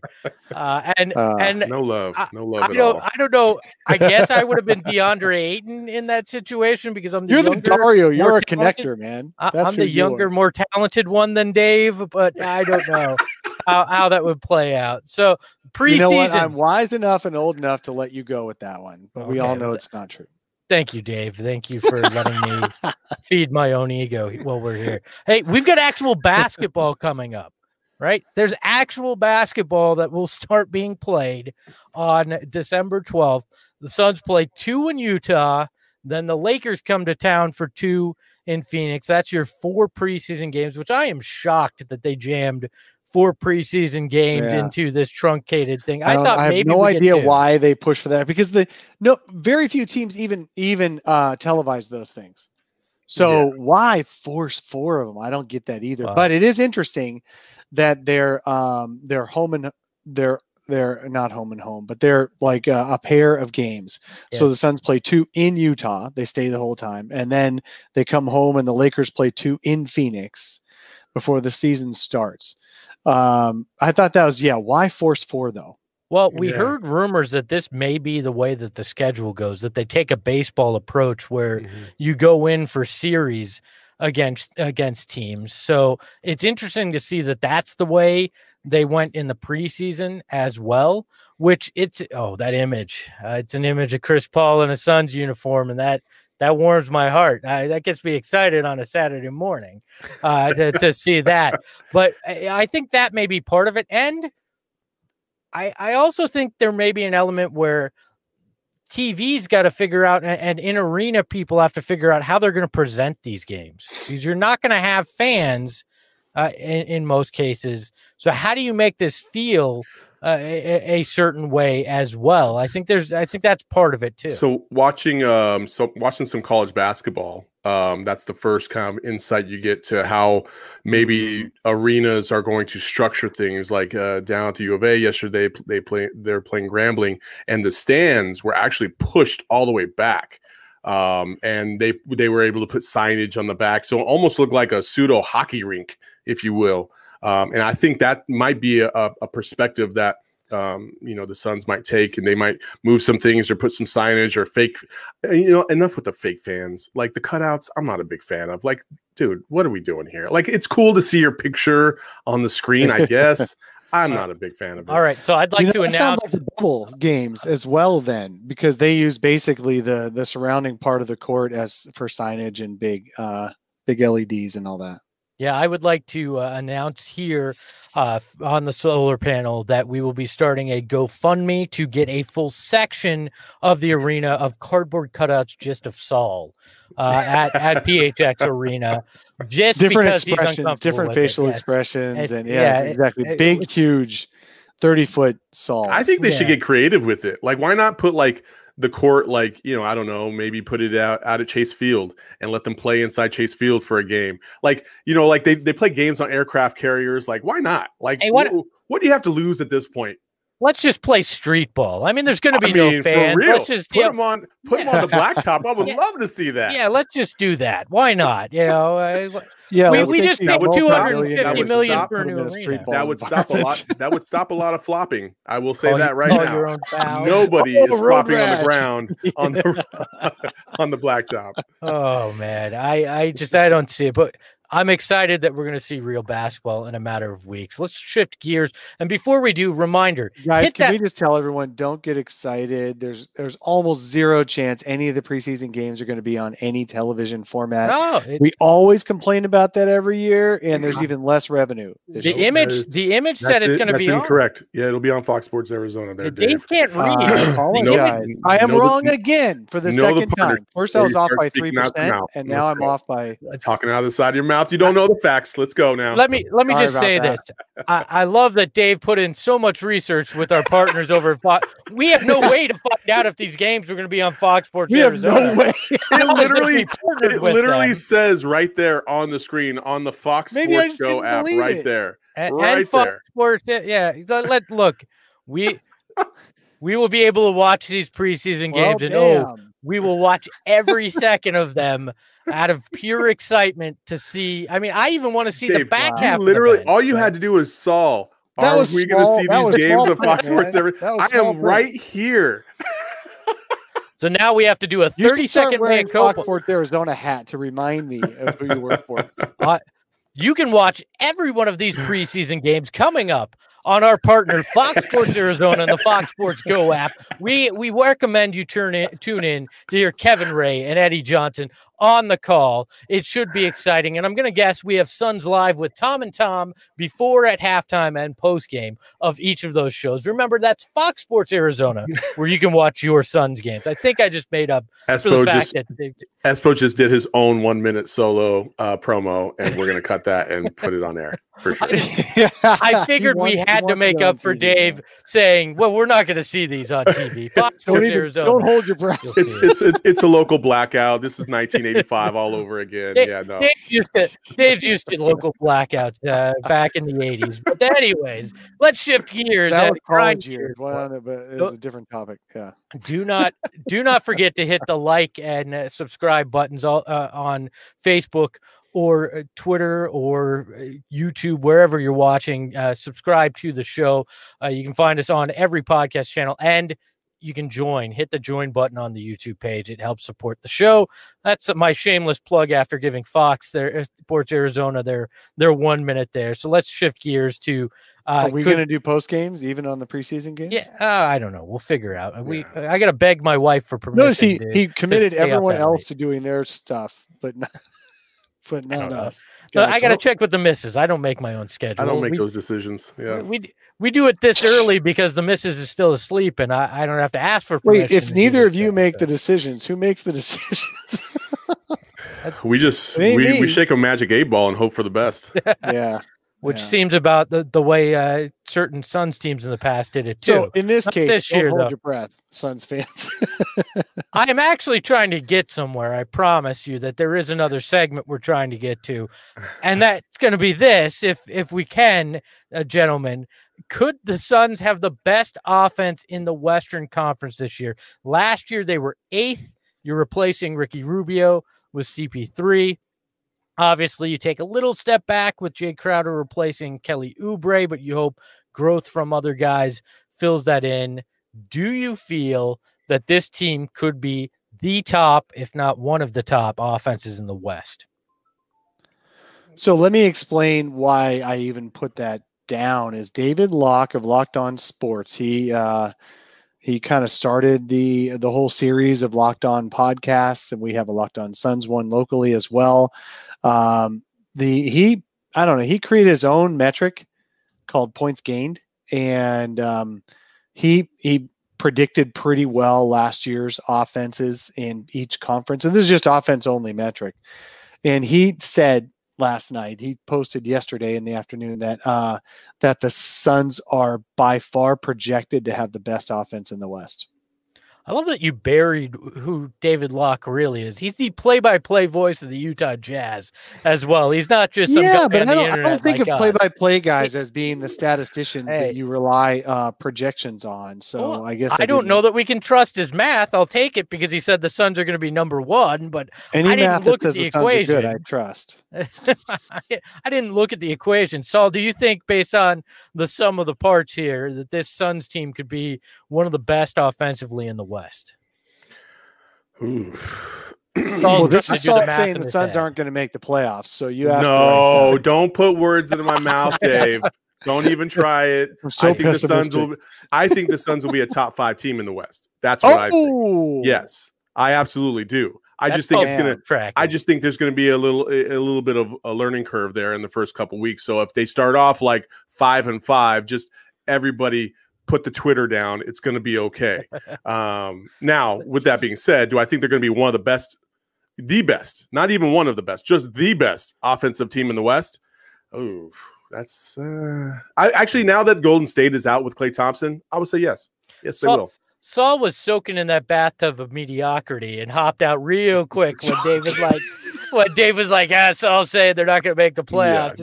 And no love I at all. I don't know. I guess I would have been DeAndre Ayton in that situation because I'm the you're younger, the Dario. You're a talented. connector, man. I'm the younger, more talented one than Dave, but I don't know how that would play out. So preseason, you know what? I'm wise enough and old enough to let you go with that one, but we all know it's not true. Thank you, Dave. Thank you for letting me feed my own ego while we're here. Hey, we've got actual basketball coming up, right? There's actual basketball that will start being played on December 12th. The Suns play 2 in Utah. Then the Lakers come to town for 2 in Phoenix. That's your 4 preseason games, which I am shocked that they jammed 4 preseason games into this truncated thing. I thought maybe I have no idea why they push for that because very few teams even televise those things. So why force 4 of them? I don't get that either. Wow. But it is interesting that they're home and they're not home and home, but they're like a pair of games. Yes. So the Suns play 2 in Utah. They stay the whole time. And then they come home and the Lakers play 2 in Phoenix before the season starts. I thought that was, why force 4 though? Well, we heard rumors that this may be the way that the schedule goes, that they take a baseball approach where you go in for series against teams. So it's interesting to see that that's the way they went in the preseason as well, which that image. It's an image of Chris Paul in a Suns uniform, and that warms my heart. That gets me excited on a Saturday morning to see that. But I think that may be part of it. And I also think there may be an element where TV's got to figure out, and in arena people have to figure out how they're going to present these games, because you're not going to have fans in most cases. So how do you make this feel a certain way as well? I think that's part of it too. So watching some college basketball, that's the first kind of insight you get to how maybe arenas are going to structure things. Like down at the U of A yesterday, they're playing Grambling, and the stands were actually pushed all the way back. And they were able to put signage on the back, so it almost looked like a pseudo hockey rink, if you will. And I think that might be a perspective that the Suns might take, and they might move some things or put some signage or fake. Enough with the fake fans. Like the cutouts, I'm not a big fan of. Like, dude, what are we doing here? Like, it's cool to see your picture on the screen, I guess. I'm not a big fan of it. All right, so I'd like to announce sounds like the bubble games as well, then, because they use basically the surrounding part of the court as for signage and big LEDs and all that. Yeah, I would like to announce here on the solar panel that we will be starting a GoFundMe to get a full section of the arena of cardboard cutouts just of Saul at PHX Arena, just different because expressions, he's uncomfortable different with facial it. expressions, and exactly. Big, huge, 30-foot Saul. I think they should get creative with it. Like, why not put like the court, like, I don't know, maybe put it out at Chase Field and let them play inside Chase Field for a game. Like, like they play games on aircraft carriers. Like, why not? Like, hey, what do you have to lose at this point? Let's just play street ball. I mean, there's going to be no fans. Let's just put them on the blacktop. I would love to see that. Yeah, let's just do that. Why not? Yeah, we just paid $250 million for a new arena. That would stop a lot. That would stop a lot of flopping. I will say that right now. Nobody is flopping on the ground on the blacktop. Oh man, I don't see it, but I'm excited that we're going to see real basketball in a matter of weeks. Let's shift gears. And before we do, reminder, guys, can we just tell everyone, don't get excited. There's almost zero chance any of the preseason games are going to be on any television format. No, we always complain about that every year, and there's even less revenue. The image said it's going to be incorrect. Yeah, it'll be on Fox Sports Arizona. Dave can't read. I am wrong again for the second time. First, I was off by 3%, and now I'm off by talking out of the side of your mouth. You don't know the facts. Let's go now. Let me just say this. I love that Dave put in so much research with our partners over at Fox. We have no way to find out if these games are going to be on Fox Sports Arizona. No way. It literally says right there on the screen on the Fox Sports Go app right there. And Fox Sports, yeah. Look, we will be able to watch these preseason games, and we will watch every second of them out of pure excitement to see. I mean, I even want to see the back half. Literally, all you had to do was Saul. Are we going to see these games on Fox Sports? I am right here. So now we have to do a 30-second wearing Fox Sports Arizona hat to remind me of who you work for. You can watch every one of these preseason games coming up on our partner Fox Sports Arizona and the Fox Sports Go app. We recommend you tune in to hear Kevin Ray and Eddie Johnson on the call. It should be exciting. And I'm going to guess we have Suns Live with Tom and Tom before, at halftime, and post-game of each of those shows. Remember, that's Fox Sports Arizona, where you can watch your Suns games. I think I just made up Espo just did his own 1-minute solo promo, and we're going to cut that and put it on air for sure. I figured we had to make up for Dave saying, well, we're not going to see these on TV. Fox Sports Arizona. Don't hold your breath. It's a local blackout. This is 1985 all over again. Dave's used to local blackouts back in the 80s. But anyways, let's shift gears. That was college years, but it was a different topic. Yeah. Do not forget to hit the like and subscribe buttons on Facebook or Twitter or YouTube, wherever you're watching. Subscribe to the show. You can find us on every podcast channel, and you can join. Hit the join button on the YouTube page. It helps support the show. That's my shameless plug after giving Fox their Sports Arizona their 1 minute there. So let's shift gears to. Are we going to do post games even on the preseason games? Yeah, I don't know. We'll figure out. I got to beg my wife for permission. Notice he committed everyone else to doing their stuff, but not us. No, I got to check with the missus. I don't make my own schedule. I don't make those decisions. Yeah, we do it this early because the missus is still asleep, and I don't have to ask for permission. Wait, if neither of you make the decisions, who makes the decisions? we shake a magic 8-ball and hope for the best. Yeah. Which seems about the way certain Suns teams in the past did it too. So in this case, this year, hold your breath, Suns fans. I am actually trying to get somewhere. I promise you that there is another segment we're trying to get to, and that's going to be this. If we can, gentlemen, could the Suns have the best offense in the Western Conference this year? Last year they were 8th. You're replacing Ricky Rubio with CP3. Obviously, you take a little step back with Jay Crowder replacing Kelly Oubre, but you hope growth from other guys fills that in. Do you feel that this team could be the top, if not one of the top offenses in the West? So let me explain why I even put that down. Is David Locke of Locked On Sports. He kind of started the whole series of Locked On podcasts, and we have a Locked On Suns one locally as well. He created his own metric called points gained, and he predicted pretty well last year's offenses in each conference. And this is just offense only metric. And he said last night, he posted yesterday in the afternoon that the Suns are by far projected to have the best offense in the West. I love that you buried who David Locke really is. He's the play-by-play voice of the Utah Jazz as well. He's not just some guy on the internet. I don't think of play-by-play guys as being the statisticians that you rely projections on. So I guess I don't know that we can trust his math. I'll take it because he said the Suns are going to be number 1, but any I didn't look at the equation. Good, I trust. I didn't look at the equation. Saul, do you think based on the sum of the parts here that this Suns team could be one of the best offensively in the West? Well, this is Salt saying the Suns aren't going to make the playoffs. So you asked. No, don't put words into my mouth, Dave. Don't even try it. I think the Suns will be a top 5 team in the West. That's what I think. Yes, I absolutely do. I just think there's going to be a little bit of a learning curve there in the first couple weeks. So if they start off like 5-5, just everybody put the Twitter down. It's going to be okay. Now, with that being said, do I think they're going to be one of the best, not even one of the best, just the best offensive team in the West? Oh, that's I actually, now that Golden State is out with Klay Thompson, I would say yes. Yes, they will. Saul was soaking in that bathtub of mediocrity and hopped out real quick when Dave was like, Saul's saying they're not going to make the playoffs.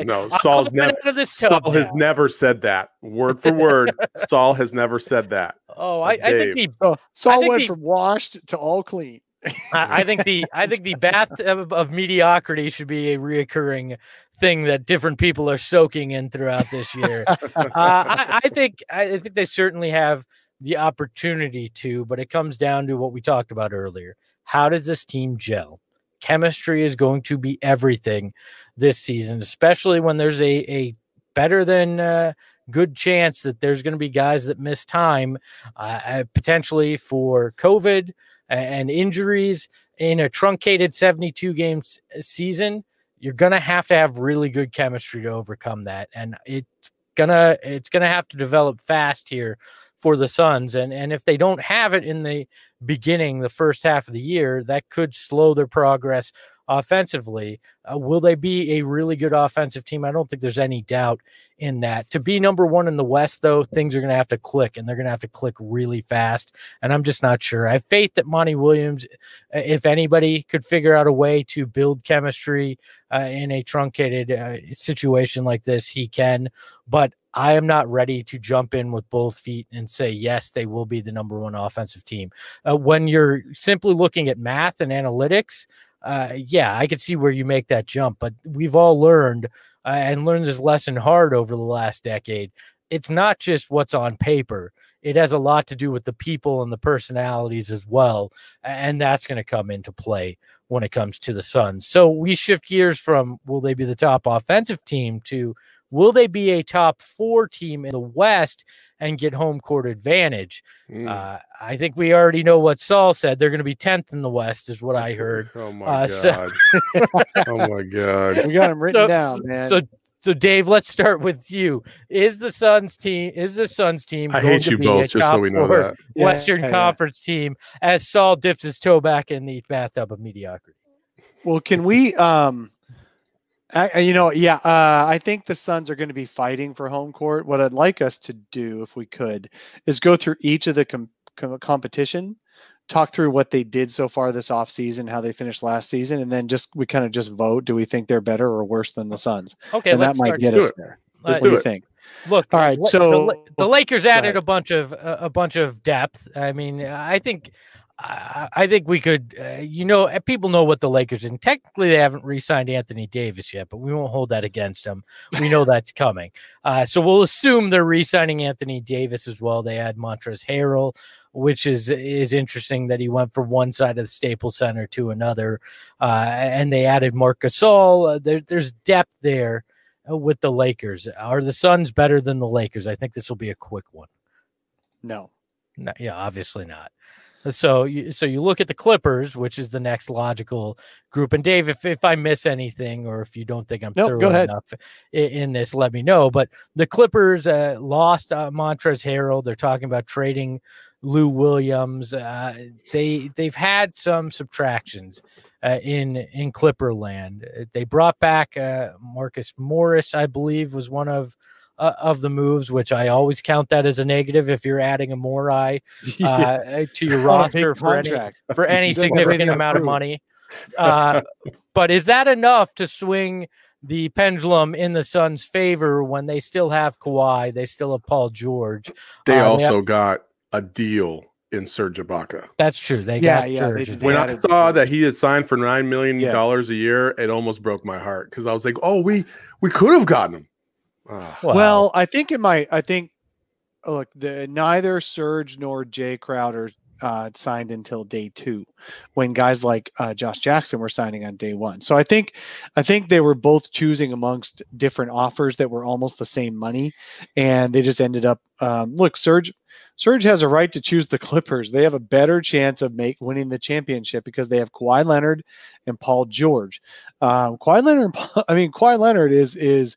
Saul has never said that word for word. Saul has never said that. Oh, I think Saul went from washed to all clean. I think the bathtub of mediocrity should be a reoccurring thing that different people are soaking in throughout this year. I think they certainly have the opportunity to, but it comes down to what we talked about earlier. How does this team gel? Chemistry is going to be everything this season, especially when there's a better than good chance that there's going to be guys that miss time, potentially for COVID and injuries in a truncated 72 games season. You're going to have really good chemistry to overcome that. And it's going to have to develop fast here for the Suns. And if they don't have it in the beginning, the first half of the year, that could slow their progress offensively. Will they be a really good offensive team? I don't think there's any doubt in that. To be number 1 in the West, though, things are going to have to click, and they're going to have to click really fast. And I'm just not sure. I have faith that Monty Williams, if anybody could figure out a way to build chemistry in a truncated situation like this, he can. But I am not ready to jump in with both feet and say, yes, they will be the number 1 offensive team. When you're simply looking at math and analytics, I could see where you make that jump, but we've all learned and learned this lesson hard over the last decade. It's not just what's on paper. it has a lot to do with the people and the personalities as well. And that's going to come into play when it comes to the Suns. So we shift gears from will they be the top offensive team to will they be a top 4 team in the West and get home court advantage? I think we already know what Saul said. They're going to be 10th in the West is what I heard. Oh my God. Oh my God. We got them written down, man. So Dave, let's start with you. Is the Suns team I hate you both, just so we know that. Western Conference team as Saul dips his toe back in the bathtub of mediocrity? Well, can we I think the Suns are going to be fighting for home court. What I'd like us to do, if we could, is go through each of the competition, talk through what they did so far this offseason, how they finished last season, and then we kind of just vote. Do we think they're better or worse than the Suns? Okay, and that might get us there. Let's what do do you it. think? Look, all right. So the Lakers added a bunch of depth. I mean, I think we could, people know what the Lakers, and technically they haven't re-signed Anthony Davis yet, but we won't hold that against them. We know that's coming. So we'll assume they're re-signing Anthony Davis as well. They add Montrezl Harrell, which is interesting that he went from one side of the Staples Center to another. And they added Marc Gasol. There's depth there with the Lakers. Are the Suns better than the Lakers? I think this will be a quick one. No. Yeah, obviously not. So you look at the Clippers, which is the next logical group. And Dave, if I miss anything, or if you don't think I'm thorough enough in this, let me know. But the Clippers lost Montrezl Harrell. They're talking about trading Lou Williams. They've had some subtractions in Clipperland. They brought back Marcus Morris, I believe, was one of the moves, which I always count that as a negative if you're adding a Morai to your roster for any significant amount of money. But is that enough to swing the pendulum in the Suns' favor when they still have Kawhi, they still have Paul George? They also got a deal in Serge Ibaka. That's true. They got Serge. When I saw that he had signed for $9 million a year, it almost broke my heart because I was like, oh, we could have gotten him. Well, I think look, neither Serge nor Jay Crowder signed until day 2, when guys like Josh Jackson were signing on day 1. So I think they were both choosing amongst different offers that were almost the same money, and they just ended up. Look, Serge has a right to choose the Clippers. They have a better chance of winning the championship because they have Kawhi Leonard and Paul George. Kawhi Leonard is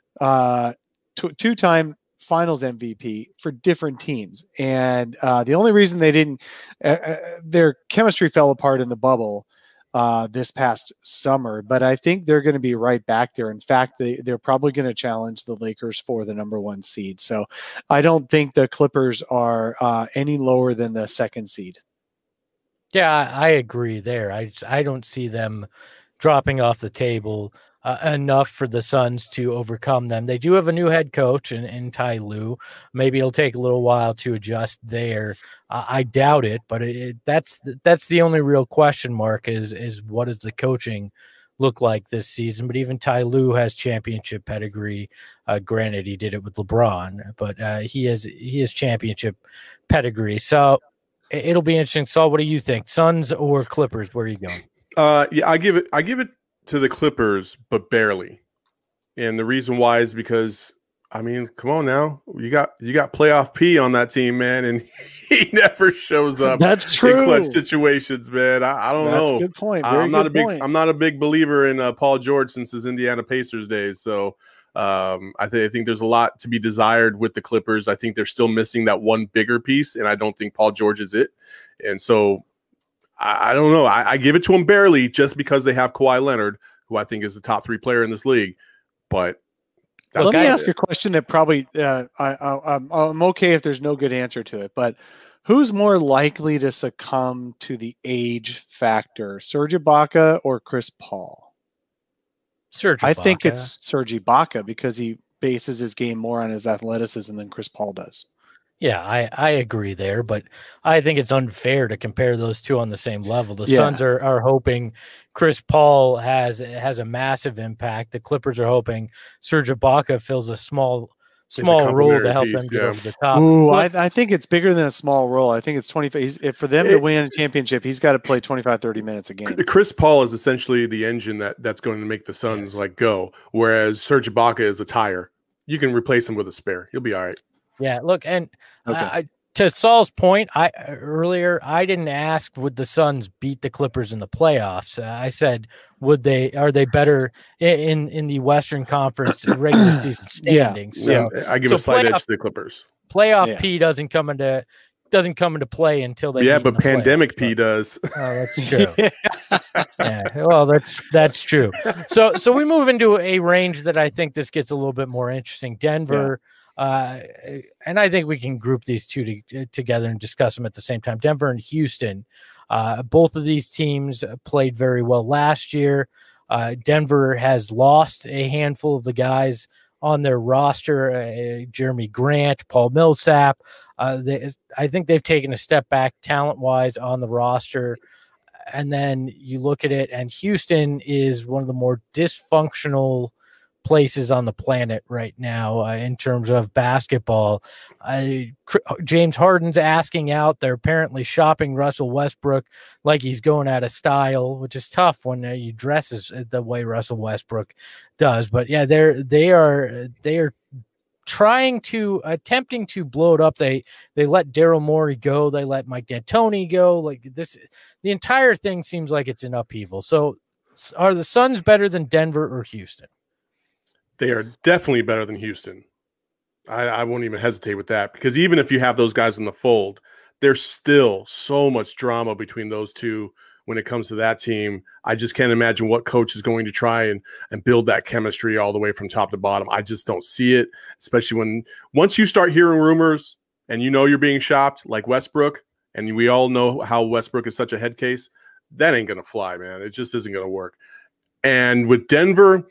2-time Finals MVP for different teams, and the only reason they didn't their chemistry fell apart in the bubble this past summer, but I think they're going to be right back there. In fact, they're probably going to challenge the Lakers for the number 1 seed. So I don't think the Clippers are any lower than the 2nd seed. Yeah, I agree there. I don't see them dropping off the table enough for the Suns to overcome them. They do have a new head coach in Ty Lue. Maybe it'll take a little while to adjust there. I doubt it, but that's the only real question mark is what does the coaching look like this season? But even Ty Lue has championship pedigree. Granted, he did it with LeBron, but he has championship pedigree. So it'll be interesting. Saul, what do you think? Suns or Clippers? Where are you going? Yeah, I give it to the Clippers, but barely. And the reason why is because, I mean, come on now. You got playoff P on that team, man, and he never shows up. That's true. In clutch situations, man. I don't know. That's a good point. I'm not a big believer in Paul George since his Indiana Pacers days. So I think there's a lot to be desired with the Clippers. I think they're still missing that one bigger piece, and I don't think Paul George is it. And so I don't know. I give it to them barely just because they have Kawhi Leonard, who I think is the top 3 player in this league. But let me ask a question that probably I'm okay if there's no good answer to it. But who's more likely to succumb to the age factor, Serge Ibaka or Chris Paul? Serge Ibaka. I think it's Serge Ibaka because he bases his game more on his athleticism than Chris Paul does. Yeah, I agree there, but I think it's unfair to compare those two on the same level. The Suns are hoping Chris Paul has a massive impact. The Clippers are hoping Serge Ibaka fills a small small role to complementary help piece, them get yeah. over the top. Ooh, Look, I think it's bigger than a small role. I think it's 25. If for them to win a championship, he's got to play 25, 30 minutes a game. Chris Paul is essentially the engine that's going to make the Suns like go, whereas Serge Ibaka is a tire. You can replace him with a spare. You'll be all right. yeah, look, and Okay. to Saul's point, earlier I didn't ask would the Suns beat the Clippers in the playoffs. I said are they better in the Western Conference regular season standings? Yeah. So I give a slight edge to the Clippers. playoff P doesn't come into play until they meet in but the pandemic playoffs. P does. Oh, that's true. Yeah, well, that's true. So we move into a range that I think this gets a little bit more interesting. Denver, and I think we can group these two together and discuss them at the same time. Denver and Houston, both of these teams played very well last year. Denver has lost a handful of the guys on their roster, Jeremy Grant, Paul Millsap. I think they've taken a step back talent-wise on the roster. And then you look at it, and Houston is one of the more dysfunctional places on the planet right now in terms of basketball. James Harden's asking out. They're apparently shopping Russell Westbrook like he's going out of style, which is tough when you dress the way Russell Westbrook does. But yeah, they are attempting to blow it up. They let Daryl Morey go. They let Mike D'Antoni go. Like this, the entire thing seems like it's an upheaval. So are the Suns better than Denver or Houston? They are definitely better than Houston. I won't even hesitate with that, because even if you have those guys in the fold, there's still so much drama between those two when it comes to that team. I just can't imagine what coach is going to try and build that chemistry all the way from top to bottom. I just don't see it, especially once you start hearing rumors and you know you're being shopped like Westbrook, and we all know how Westbrook is such a head case, that ain't going to fly, man. It just isn't going to work. And with Denver,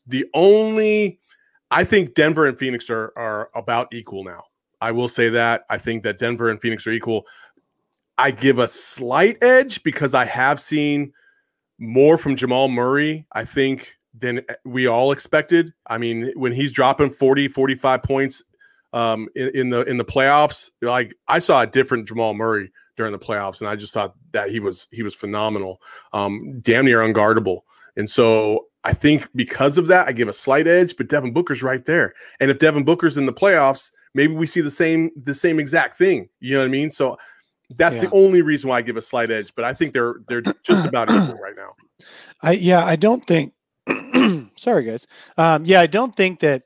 I think Denver and Phoenix are about equal now. I will say that. I think that Denver and Phoenix are equal. I give a slight edge because I have seen more from Jamal Murray, I think, than we all expected. I mean, when he's dropping 40, 45 points in the playoffs, like I saw a different Jamal Murray during the playoffs, and I just thought that he was phenomenal, damn near unguardable. And so I think because of that, I give a slight edge, but Devin Booker's right there. And if Devin Booker's in the playoffs, maybe we see the same exact thing. You know what I mean? So that's the only reason why I give a slight edge, but I think they're just about equal right now. I don't think sorry guys. I don't think that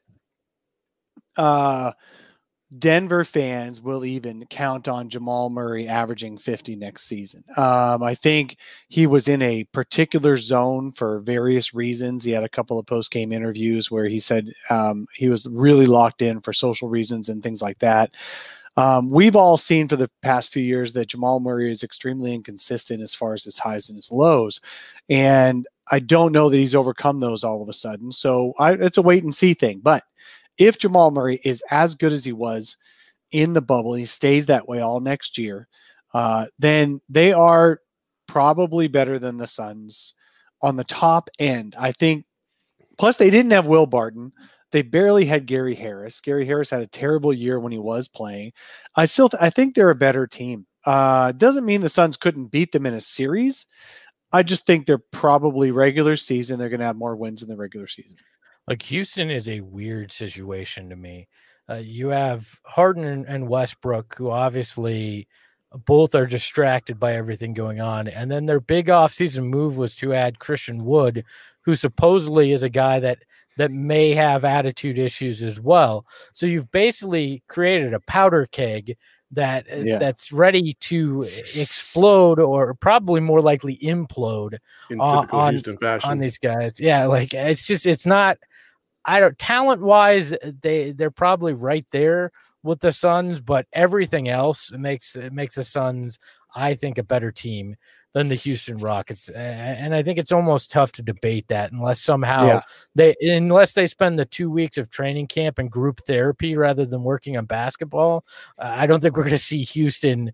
Denver fans will even count on Jamal Murray averaging 50 next season. I think he was in a particular zone for various reasons. He had a couple of post-game interviews where he said he was really locked in for social reasons and things like that. We've all seen for the past few years that Jamal Murray is extremely inconsistent as far as his highs and his lows. And I don't know that he's overcome those all of a sudden. So it's a wait and see thing. But if Jamal Murray is as good as he was in the bubble, and he stays that way all next year, then they are probably better than the Suns on the top end, I think. Plus, they didn't have Will Barton. They barely had Gary Harris. Gary Harris had a terrible year when he was playing. I think they're a better team. Doesn't mean the Suns couldn't beat them in a series. I just think they're probably regular season. They're going to have more wins in the regular season. Like Houston is a weird situation to me. You have Harden and Westbrook, who obviously both are distracted by everything going on. And then their big offseason move was to add Christian Wood, who supposedly is a guy that may have attitude issues as well. So you've basically created a powder keg that's ready to explode, or probably more likely implode in typical Houston fashion on these guys. Yeah, like it's not. Talent wise, they're probably right there with the Suns, but everything else makes the Suns, I think, a better team than the Houston Rockets. And I think it's almost tough to debate that unless somehow they spend the 2 weeks of training camp and group therapy rather than working on basketball. I don't think we're going to see Houston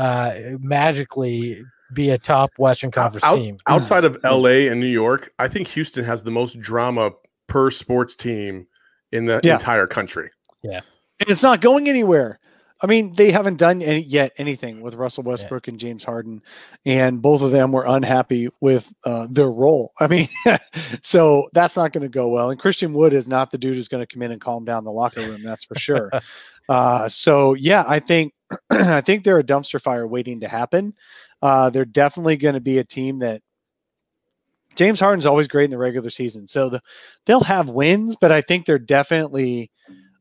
magically be a top Western Conference team. Outside of LA and New York, I think Houston has the most drama per sports team in the entire country. Yeah. And it's not going anywhere. I mean, they haven't done anything with Russell Westbrook and James Harden, and both of them were unhappy with their role. I mean, so that's not going to go well. And Christian Wood is not the dude who's going to come in and calm down the locker room. That's for sure. So yeah, I think I think they're a dumpster fire waiting to happen. They're definitely going to be a team that James Harden's always great in the regular season, so they'll have wins, but I think they're definitely.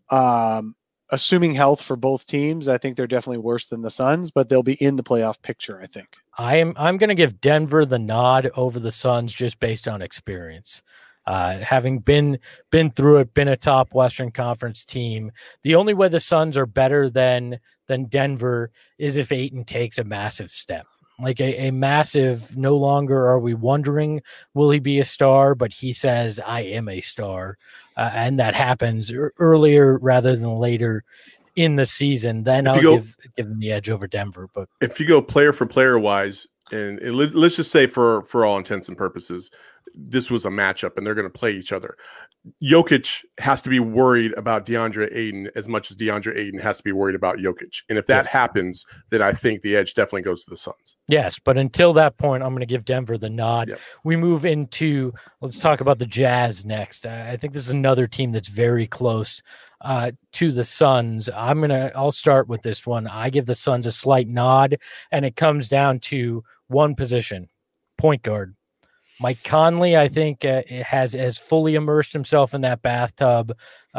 Assuming health for both teams, I think they're definitely worse than the Suns, but they'll be in the playoff picture, I think. I'm going to give Denver the nod over the Suns just based on experience. Having been through it, been a top Western Conference team, the only way the Suns are better than Denver is if Ayton takes a massive step. Like a massive, no longer are we wondering, will he be a star? But he says, I am a star. And that happens earlier rather than later in the season. Then I'll give him the edge over Denver. But if you go player for player wise, and let's just say for all intents and purposes, this was a matchup and they're going to play each other. Jokic has to be worried about DeAndre Ayton as much as DeAndre Ayton has to be worried about Jokic. And if that happens, then I think the edge definitely goes to the Suns. Yes, but until that point, I'm going to give Denver the nod. Yep. We move into, let's talk about the Jazz next. I think this is another team that's very close to the Suns. I'll start with this one. I give the Suns a slight nod, and it comes down to one position, point guard. Mike Conley, I think, has fully immersed himself in that bathtub,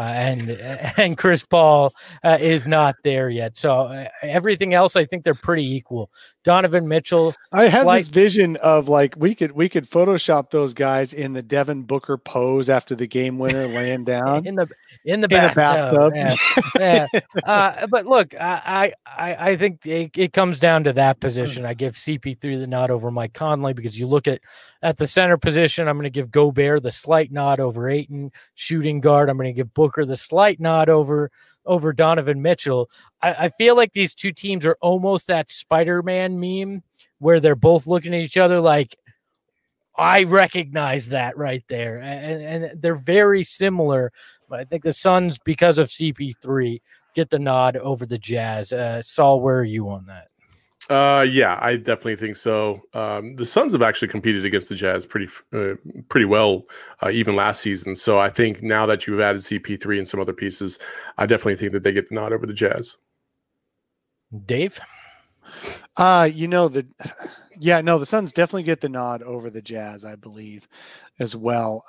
and Chris Paul is not there yet. So everything else, I think they're pretty equal. Donovan Mitchell. I have this vision of like we could Photoshop those guys in the Devin Booker pose after the game winner laying down in the bathtub. Yeah. But look, I think it comes down to that position. I give CP3 the nod over Mike Conley because you look at the center position. I'm going to give Gobert the slight nod over Ayton. Shooting guard, I'm going to give Booker the slight nod over Donovan Mitchell. I feel like these two teams are almost that Spider-Man meme where they're both looking at each other like, I recognize that right there. And they're very similar, but I think the Suns, because of CP3, get the nod over the Jazz. Saul, where are you on that? Yeah, I definitely think so. The Suns have actually competed against the Jazz pretty well, even last season. So I think now that you've added CP3 and some other pieces, I definitely think that they get the nod over the Jazz. Dave? The Suns definitely get the nod over the Jazz, I believe, as well.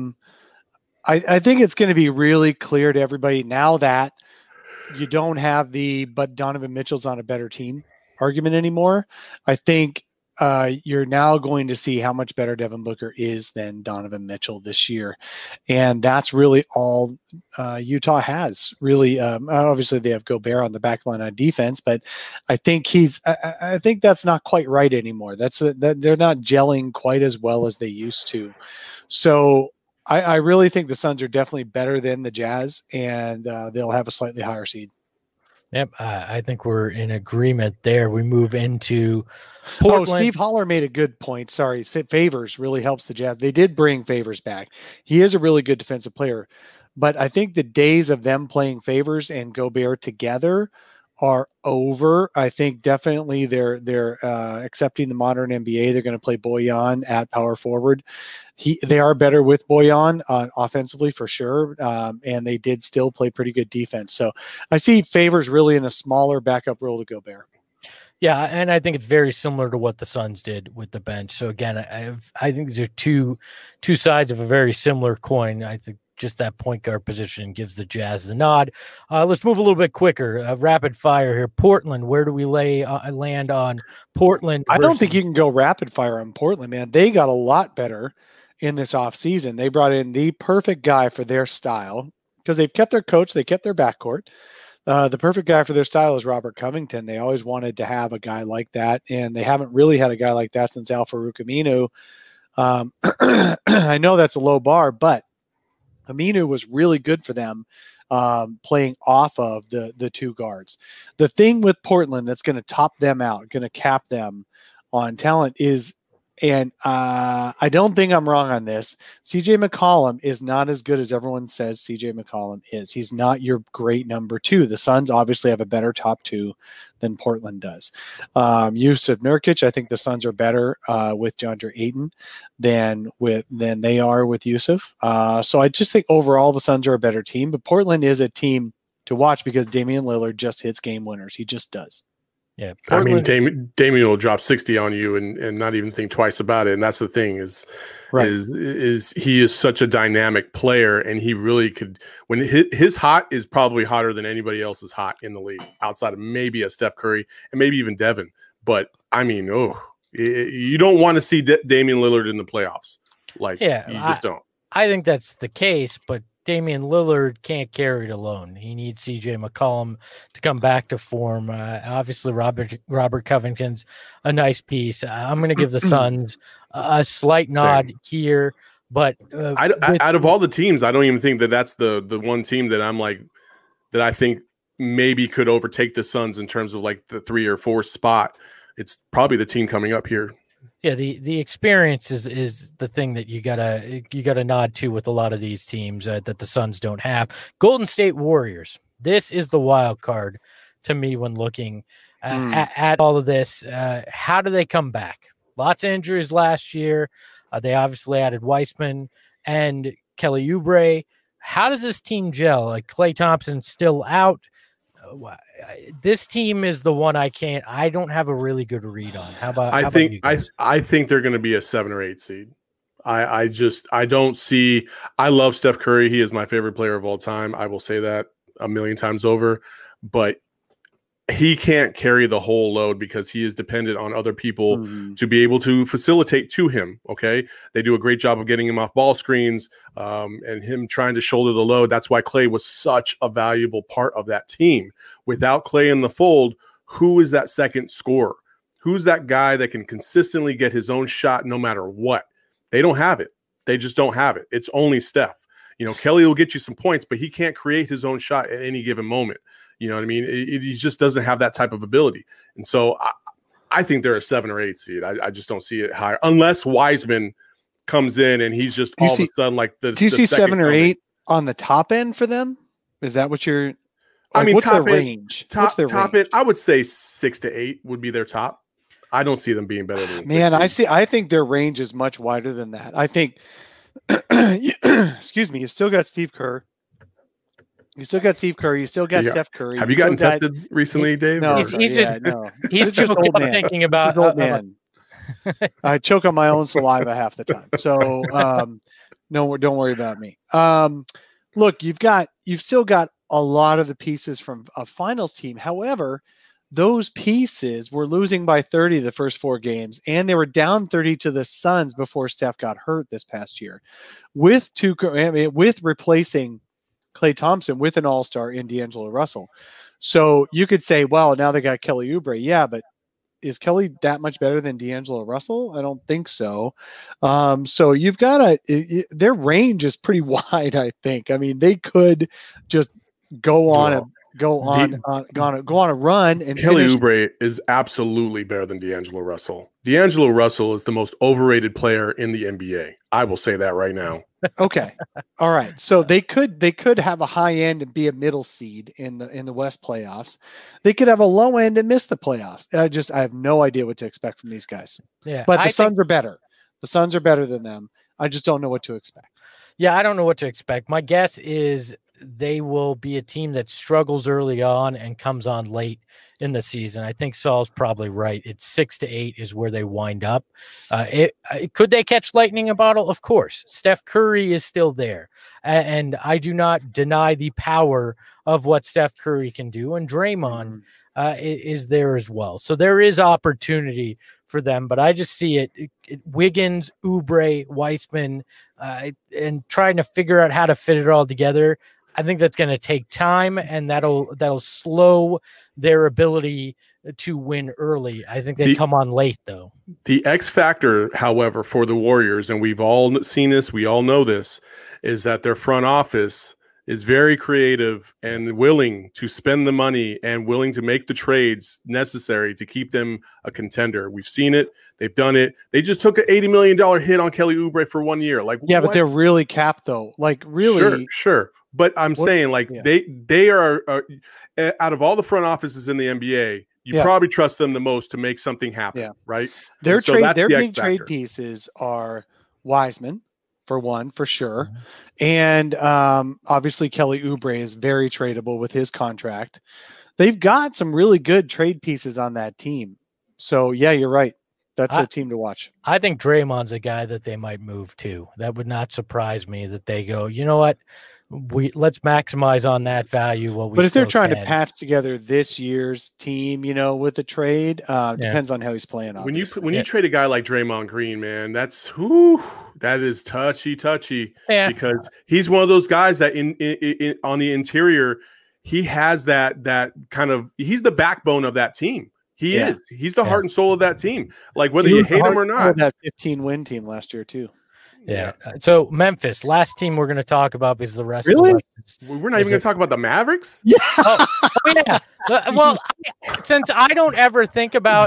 I think it's going to be really clear to everybody now that you don't have but Donovan Mitchell's on a better team argument anymore. I think you're now going to see how much better Devin Booker is than Donovan Mitchell this year. And that's really all Utah has. Really, obviously they have Gobert on the back line on defense, but I think I think that's not quite right anymore. That they're not gelling quite as well as they used to. So I really think the Suns are definitely better than the Jazz, and they'll have a slightly higher seed. Yep, I think we're in agreement there. We move into Portland. Oh, Steve Holler made a good point. Sorry, Favors really helps the Jazz. They did bring Favors back. He is a really good defensive player, but I think the days of them playing Favors and Gobert together are over. I think definitely they're accepting the modern NBA. They're going to play Bojan at power forward. They are better with Bojan offensively for sure, and they did still play pretty good defense. So I see Favors really in a smaller backup role to Gobert. Yeah, and I think it's very similar to what the Suns did with the bench. So again, I think these are two sides of a very similar coin. I think just that point guard position gives the Jazz the nod. Let's move a little bit quicker. Rapid fire here. Portland, where do we land on Portland? I don't think you can go rapid fire on Portland, man. They got a lot better in this offseason. They brought in the perfect guy for their style because they've kept their coach. They kept their backcourt. The perfect guy for their style is Robert Covington. They always wanted to have a guy like that, and they haven't really had a guy like that since Al-Farouq Aminu. I know that's a low bar, but Aminu was really good for them playing off of the two guards. The thing with Portland that's going to top them out, going to cap them on talent is And I don't think I'm wrong on this. CJ McCollum is not as good as everyone says CJ McCollum is. He's not your great number 2. The Suns obviously have a better top 2 than Portland does. Yusuf Nurkic, I think the Suns are better with DeAndre Ayton than they are with Yusuf. So I just think overall the Suns are a better team, but Portland is a team to watch because Damian Lillard just hits game winners. He just does. Yeah, Portland, I mean, Damian will drop 60 on you and not even think twice about it. And that's the thing is he is such a dynamic player, and he really could. When his hot is probably hotter than anybody else's hot in the league, outside of maybe a Steph Curry and maybe even Devin. But I mean, you don't want to see Damian Lillard in the playoffs. You just don't. I think that's the case, but Damian Lillard can't carry it alone. He needs CJ McCollum to come back to form. Obviously, Robert Covington's a nice piece. I'm going to give the Suns a slight nod here, but out of all the teams, I don't even think that's the one team that I'm like that I think maybe could overtake the Suns in terms of like the 3 or 4 spot. It's probably the team coming up here. Yeah, the experience is the thing that you gotta nod to with a lot of these teams that the Suns don't have. Golden State Warriors. This is the wild card to me when looking at all of this. How do they come back? Lots of injuries last year. They obviously added Weissman and Kelly Oubre. How does this team gel? Like Klay Thompson's still out. This team is the one I don't have a really good read on. I think they're going to be a 7 or 8 seed. I don't see. I love Steph Curry. He is my favorite player of all time. I will say that a million times over, but he can't carry the whole load because he is dependent on other people to be able to facilitate to him. Okay. They do a great job of getting him off ball screens and him trying to shoulder the load. That's why Klay was such a valuable part of that team. Without Klay in the fold, who is that second scorer? Who's that guy that can consistently get his own shot no matter what? They don't have it. They just don't have it. It's only Steph. Kelly will get you some points, but he can't create his own shot at any given moment. You know what I mean? He just doesn't have that type of ability. And so I think they're a 7 or 8 seed. I just don't see it higher unless Wiseman comes in and he's just all of a sudden like the. Do you see 7 or 8 on the top end for them? Is that what you're? What's their their range? Top end. I would say 6 to 8 would be their top. I don't see them being better than. Man, I think their range is much wider than that. I think. Excuse me. You've still got Steve Kerr. You still got Steve Curry. You still got Steph Curry. Have you gotten tested recently, Dave? No, he's just old man. Thinking about old man. I choke on my own saliva half the time. So no, don't worry about me. Look, you've still got a lot of the pieces from a finals team. However, those pieces were losing by 30 the first 4 games, and they were down 30 to the Suns before Steph got hurt this past year. With replacing Klay Thompson with an all-star in D'Angelo Russell. So you could say, well, now they got Kelly Oubre. Yeah, but is Kelly that much better than D'Angelo Russell? I don't think so. So you've got their range is pretty wide, I think. I mean, they could just go on a run. And Kelly Oubre is absolutely better than D'Angelo Russell. D'Angelo Russell is the most overrated player in the NBA. I will say that right now. Okay. All right. So they could have a high end and be a middle seed in the West playoffs. They could have a low end and miss the playoffs. I have no idea what to expect from these guys. Yeah. But the Suns are better. The Suns are better than them. I just don't know what to expect. Yeah, I don't know what to expect. My guess is they will be a team that struggles early on and comes on late in the season. I think Saul's probably right. It's 6 to 8 is where they wind up. Could they catch lightning in a bottle? Of course. Steph Curry is still there. And I do not deny the power of what Steph Curry can do. And Draymond is there as well. So there is opportunity for them, but I just see it Wiggins, Oubre, Weissman, and trying to figure out how to fit it all together. I think that's going to take time, and that'll slow their ability to win early. I think they come on late, though. The X factor, however, for the Warriors, and we've all seen this, we all know this, is that their front office is very creative and willing to spend the money and willing to make the trades necessary to keep them a contender. We've seen it. They've done it. They just took an $80 million hit on Kelly Oubre for 1 year. Like, yeah, but they're really capped though. Like really, sure. But I'm saying like they are out of all the front offices in the NBA, you probably trust them the most to make something happen, right? Their big trade pieces are Wiseman, for one, for sure. And obviously Kelly Oubre is very tradable with his contract. They've got some really good trade pieces on that team. So yeah, you're right. That's a team to watch. I think Draymond's a guy that they might move to. That would not surprise me that they go, you know what? Let's maximize on that value. But if they're trying to patch together this year's team, with the trade, depends on how he's playing. Obviously. When you trade a guy like Draymond Green, man, that is touchy because he's one of those guys that in on the interior, he has that kind of, he's the backbone of that team. He's the heart and soul of that team. Like whether you hate him or not. That 15-win team last year too. Yeah. So Memphis, last team we're going to talk about because the rest. Really? Of the we're not even going to talk about the Mavericks. Yeah. Oh yeah. Well, since I don't ever think about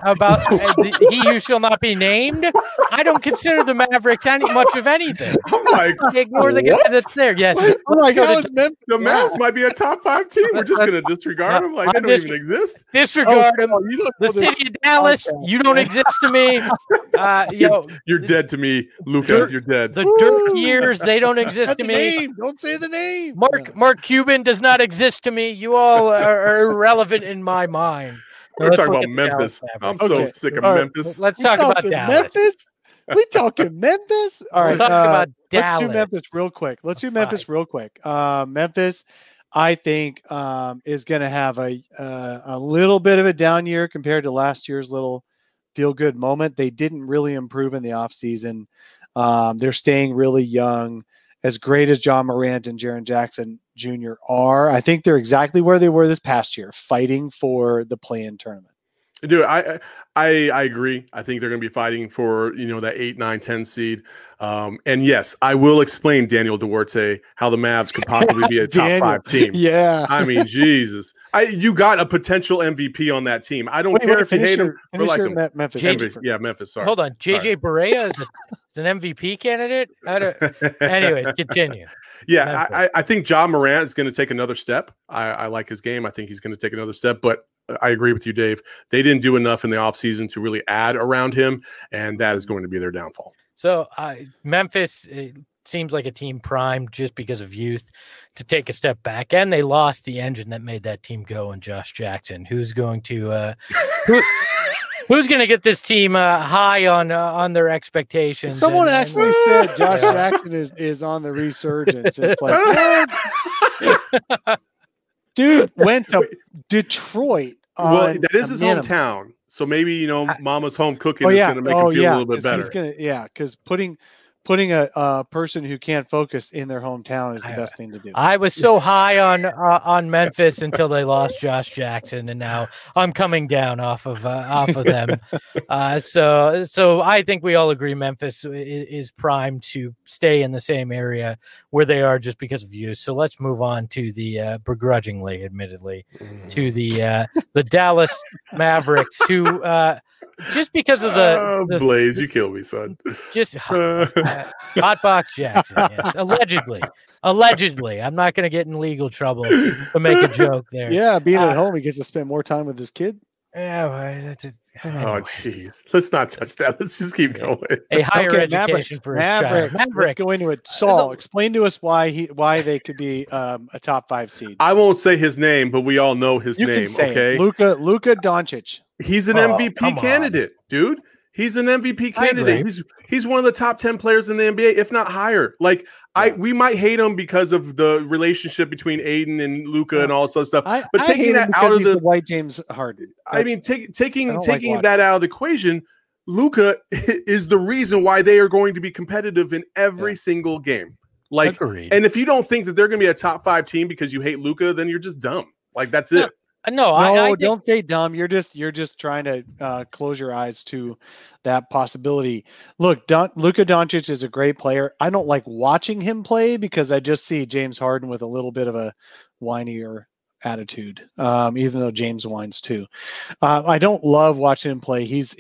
he who shall not be named, I don't consider the Mavericks much of anything. I'm like, ignore the guy that's there. Yes. The Mavs might be a top 5 team. We're just going to disregard them like they don't even exist. Disregard them. The city of Dallas, you don't exist to me. You're dead to me, Luka. You're dead. The Dirk years, they don't exist to me. Don't say the name. Mark Cuban does not exist to me. You all are irrelevant in my mind. We're talking about Memphis. I'm so sick of Memphis. Let's talk about Dallas. Memphis? We talking Memphis? All right, talk about Dallas. Let's do Memphis real quick. Memphis, I think, is going to have a little bit of a down year compared to last year's little feel-good moment. They didn't really improve in the offseason. They're staying really young. As great as John Morant and Jaren Jackson Jr. are, I think they're exactly where they were this past year, fighting for the play-in tournament. Dude, I agree. I think they're going to be fighting for, that 8, 9, 10 seed. And yes, I will explain, Daniel Duarte, how the Mavs could possibly be a top 5 team. Yeah. I mean, Jesus. You got a potential MVP on that team. I don't care if you hate him or like him. Memphis. Memphis. Sorry. Hold on. JJ Barea is an MVP candidate? Anyways, continue. Yeah, I think John Morant is going to take another step. I like his game. I think he's going to take another step, but I agree with you, Dave. They didn't do enough in the offseason to really add around him, and that is going to be their downfall. So Memphis seems like a team primed just because of youth to take a step back, and they lost the engine that made that team go. And Josh Jackson, who's going to who's going to get this team high on their expectations? Someone actually said Josh Jackson is on the resurgence. It's like, dude went to Detroit. Well, that is his hometown. So maybe, mama's home cooking is going to make him feel a little bit better. Because putting a person who can't focus in their hometown is the best thing to do. I was so high on Memphis until they lost Josh Jackson, and now I'm coming down off of them. So I think we all agree Memphis is primed to stay in the same area where they are just because of you. So let's move on to the begrudgingly, admittedly, to the Dallas Mavericks, who. Just because of the Blaze, you kill me, son. Just Hotbox Jackson, yeah. Allegedly. I'm not going to get in legal trouble to make a joke there. Yeah, being at home, he gets to spend more time with his kid. Yeah. Oh, jeez. Let's not touch that. Let's just keep going. A higher education for his child. Let's go into it. Saul, explain to us why they could be a top 5 seed. I won't say his name, but we all know his name. Okay, Luka Doncic. He's an MVP candidate, dude. He's an MVP candidate. He's one of the top 10 players in the NBA, if not higher. Like we might hate him because of the relationship between Aiden and Luka and all this other stuff. But taking that out of the white James Harden, taking that out of the equation, Luka is the reason why they are going to be competitive in every single game. Like, agreed. And if you don't think that they're going to be a top 5 team because you hate Luka, then you're just dumb. Like that's it. No, No, I think, don't say dumb. You're just trying to close your eyes to that possibility. Look, Luka Doncic is a great player. I don't like watching him play because I just see James Harden with a little bit of a whinier attitude, even though James whines too. I don't love watching him play. He's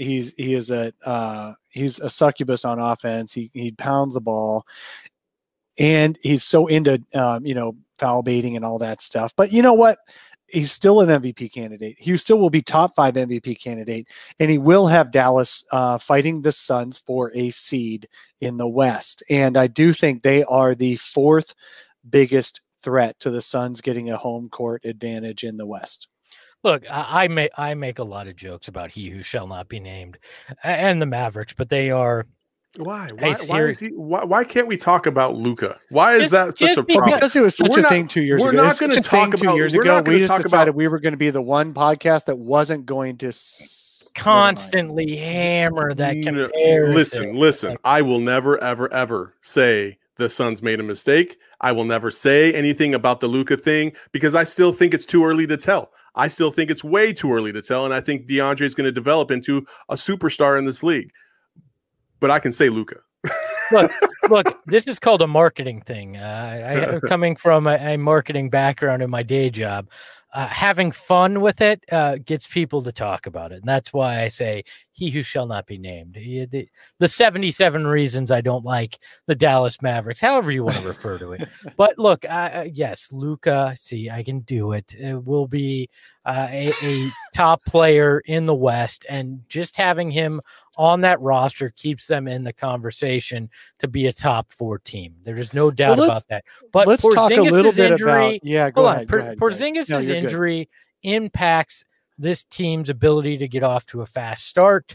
a succubus on offense. He pounds the ball, and he's so into foul baiting and all that stuff. But you know what? He's still an MVP candidate. He still will be top 5 MVP candidate, and he will have Dallas fighting the Suns for a seed in the West. And I do think they are the 4th biggest threat to the Suns getting a home court advantage in the West. look, I make a lot of jokes about he who shall not be named and the Mavericks, but they are. Why can't we talk about Luka? Why is that such just a problem? Because it was such a thing 2 years ago. We're not going to talk about 2 years ago. We just decided we were going to be the one podcast that wasn't going to constantly hammer that comparison. Listen. I will never, ever, ever say the Suns made a mistake. I will never say anything about the Luka thing because I still think it's too early to tell. I still think it's way too early to tell, and I think DeAndre is going to develop into a superstar in this league. But I can say Luka. Look, this is called a marketing thing. I coming from a marketing background in my day job, having fun with it gets people to talk about it. And that's why I say he who shall not be named. The 77 reasons I don't like the Dallas Mavericks, however you want to refer to it. But look, yes, Luka, see, I can do it. It will be a top player in the West, and just having him on that roster keeps them in the conversation to be a top 4 team. There's no doubt about that. But let's talk a little bit injury, about. Go ahead. Porzingis' injury impacts this team's ability to get off to a fast start,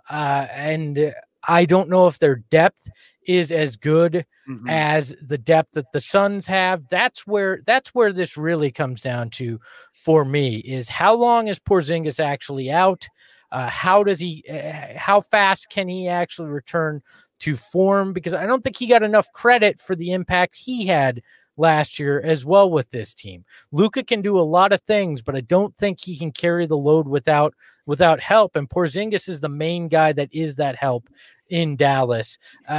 and I don't know if their depth is as good as the depth that the Suns have. That's where this really comes down to for me, is how long is Porzingis actually out? How fast can he actually return to form? Because I don't think he got enough credit for the impact he had last year as well with this team. Luka can do a lot of things, but I don't think he can carry the load without help. And Porzingis is the main guy that is that help in Dallas.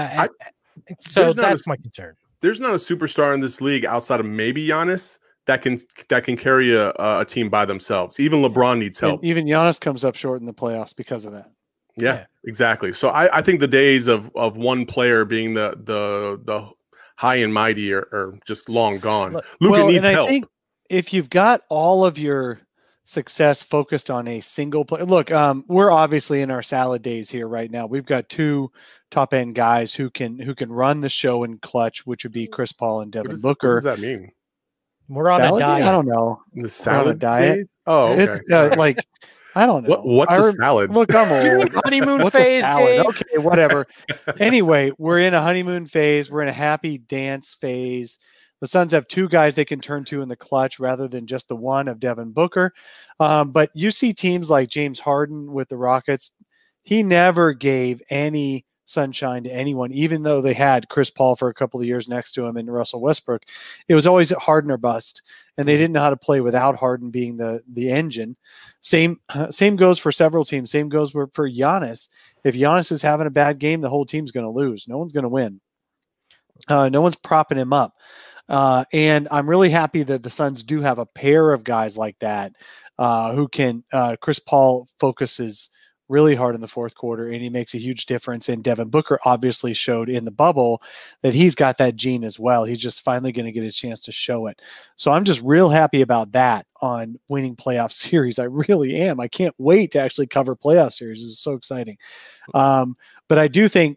So that's my concern. There's not a superstar in this league outside of maybe Giannis that can carry a team by themselves. Even LeBron needs help. And even Giannis comes up short in the playoffs because of that. Yeah. Exactly. So I think the days of one player being the high and mighty are just long gone. Luka needs help. I think if you've got all of your success focused on a single player, look, we're obviously in our salad days here right now. We've got 2 top end guys who can run the show in clutch, which would be Chris Paul and Devin Booker. What does that mean? We're on a diet. I don't know. The salad diet. Days? Oh, okay. It's, I don't know. What's a salad? Look, I'm old. Honeymoon phase. Okay, whatever. Anyway, we're in a honeymoon phase. We're in a happy dance phase. The Suns have 2 guys they can turn to in the clutch rather than just the one of Devin Booker. But you see teams like James Harden with the Rockets. He never gave any sunshine to anyone, even though they had Chris Paul for a couple of years next to him and Russell Westbrook. It was always Harden or bust, and they didn't know how to play without Harden being the engine. Same goes for several teams. Same goes for Giannis. If Giannis is having a bad game, the whole team's going to lose. No one's going to win. No one's propping him up. And I'm really happy that the Suns do have a pair of guys like that who can. Chris Paul focuses really hard in the fourth quarter, and he makes a huge difference. And Devin Booker obviously showed in the bubble that he's got that gene as well. He's just finally going to get a chance to show it. So I'm just real happy about that on winning playoff series. I really am. I can't wait to actually cover playoff series. This is so exciting. But I do think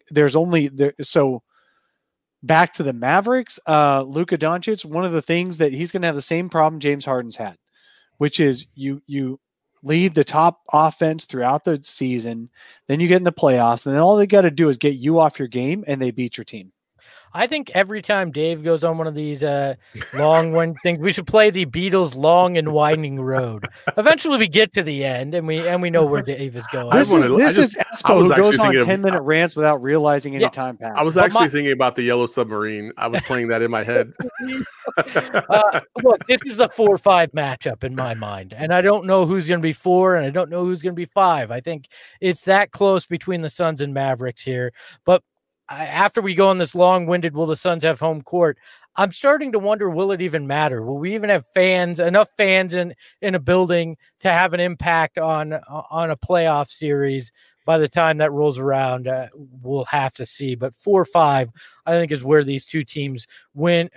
so back to the Mavericks, Luka Doncic, one of the things that he's going to have the same problem James Harden's had, which is you lead the top offense throughout the season, then you get in the playoffs, and then all they got to do is get you off your game, and they beat your team. I think every time Dave goes on one of these long one things, we should play the Beatles' "Long and Winding Road." Eventually, we get to the end, and we know where Dave is going. This is Espo who goes on 10-minute rants without realizing any time passed. I was actually thinking about the Yellow Submarine. I was playing that in my head. Look, this is the 4-5 matchup in my mind, and I don't know who's going to be 4, and I don't know who's going to be 5. I think it's that close between the Suns and Mavericks here. But after we go on this long-winded, will the Suns have home court? I'm starting to wonder, will it even matter? Will we even have enough fans in a building to have an impact on a playoff series? By the time that rolls around, we'll have to see. But 4-5, I think, is where these two teams wind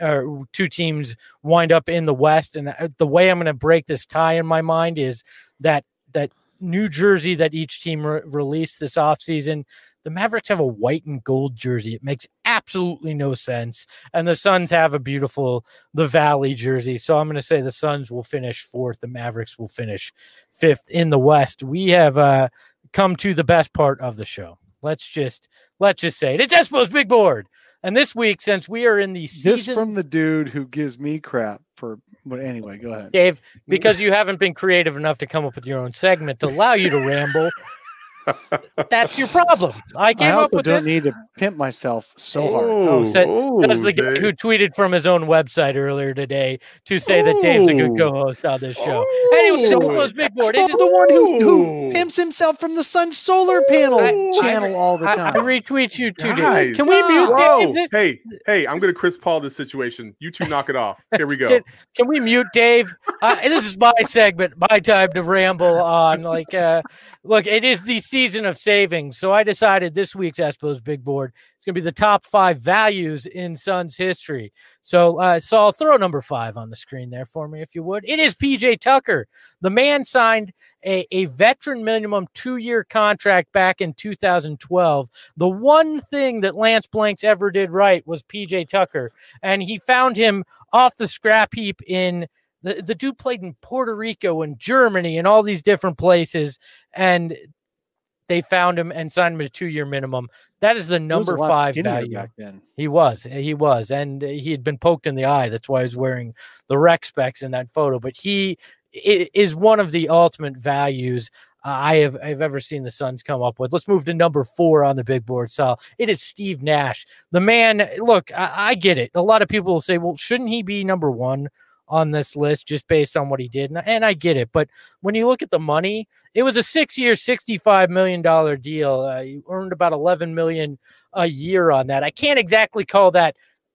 up in the West. And the way I'm going to break this tie in my mind is that new jersey that each team released this offseason. The Mavericks have a white and gold jersey. It makes absolutely no sense. And the Suns have a beautiful The Valley jersey. So I'm going to say the Suns will finish 4th. The Mavericks will finish 5th in the West. We have come to the best part of the show. Let's just say it. It's Espo's Big Board. And this week, since we are in the season... This from the dude who gives me crap for... But anyway, go ahead. Dave, because you haven't been creative enough to come up with your own segment to allow you to ramble... That's your problem. I came up with don't this. Need to pimp myself so hard. Says the guy who tweeted from his own website earlier today to say that Dave's a good co-host on this show. Anyway, Espo's Big Board. It is the one who pimps himself from the Sun solar panel channel all the time. I retweet you too, Dave. Can we mute Dave? Hey, I'm going to Chris Paul this situation. You two knock it off. Here we go. Can we mute Dave? This is my segment, my time to ramble on. Look, it is the season of savings. So I decided this week's Espo's Big Board is going to be the top 5 values in Suns history. So, Saul, throw number 5 on the screen there for me, if you would. It is PJ Tucker. The man signed a veteran minimum 2-year contract back in 2012. The one thing that Lance Blanks ever did right was PJ Tucker, and he found him off the scrap heap in the dude played in Puerto Rico and Germany and all these different places, and they found him and signed him a 2-year minimum. That is the number 5 value. Back then. He was, and he had been poked in the eye. That's why he was wearing the rec specs in that photo. But he is one of the ultimate values I've ever seen the Suns come up with. Let's move to number 4 on the big board, Sal. It is Steve Nash. The man, look, I get it. A lot of people will say, well, shouldn't he be number 1 on this list just based on what he did? And I get it. But when you look at the money, it was a 6-year, $65 million deal. You earned about $11 million a year on that. I can't exactly call that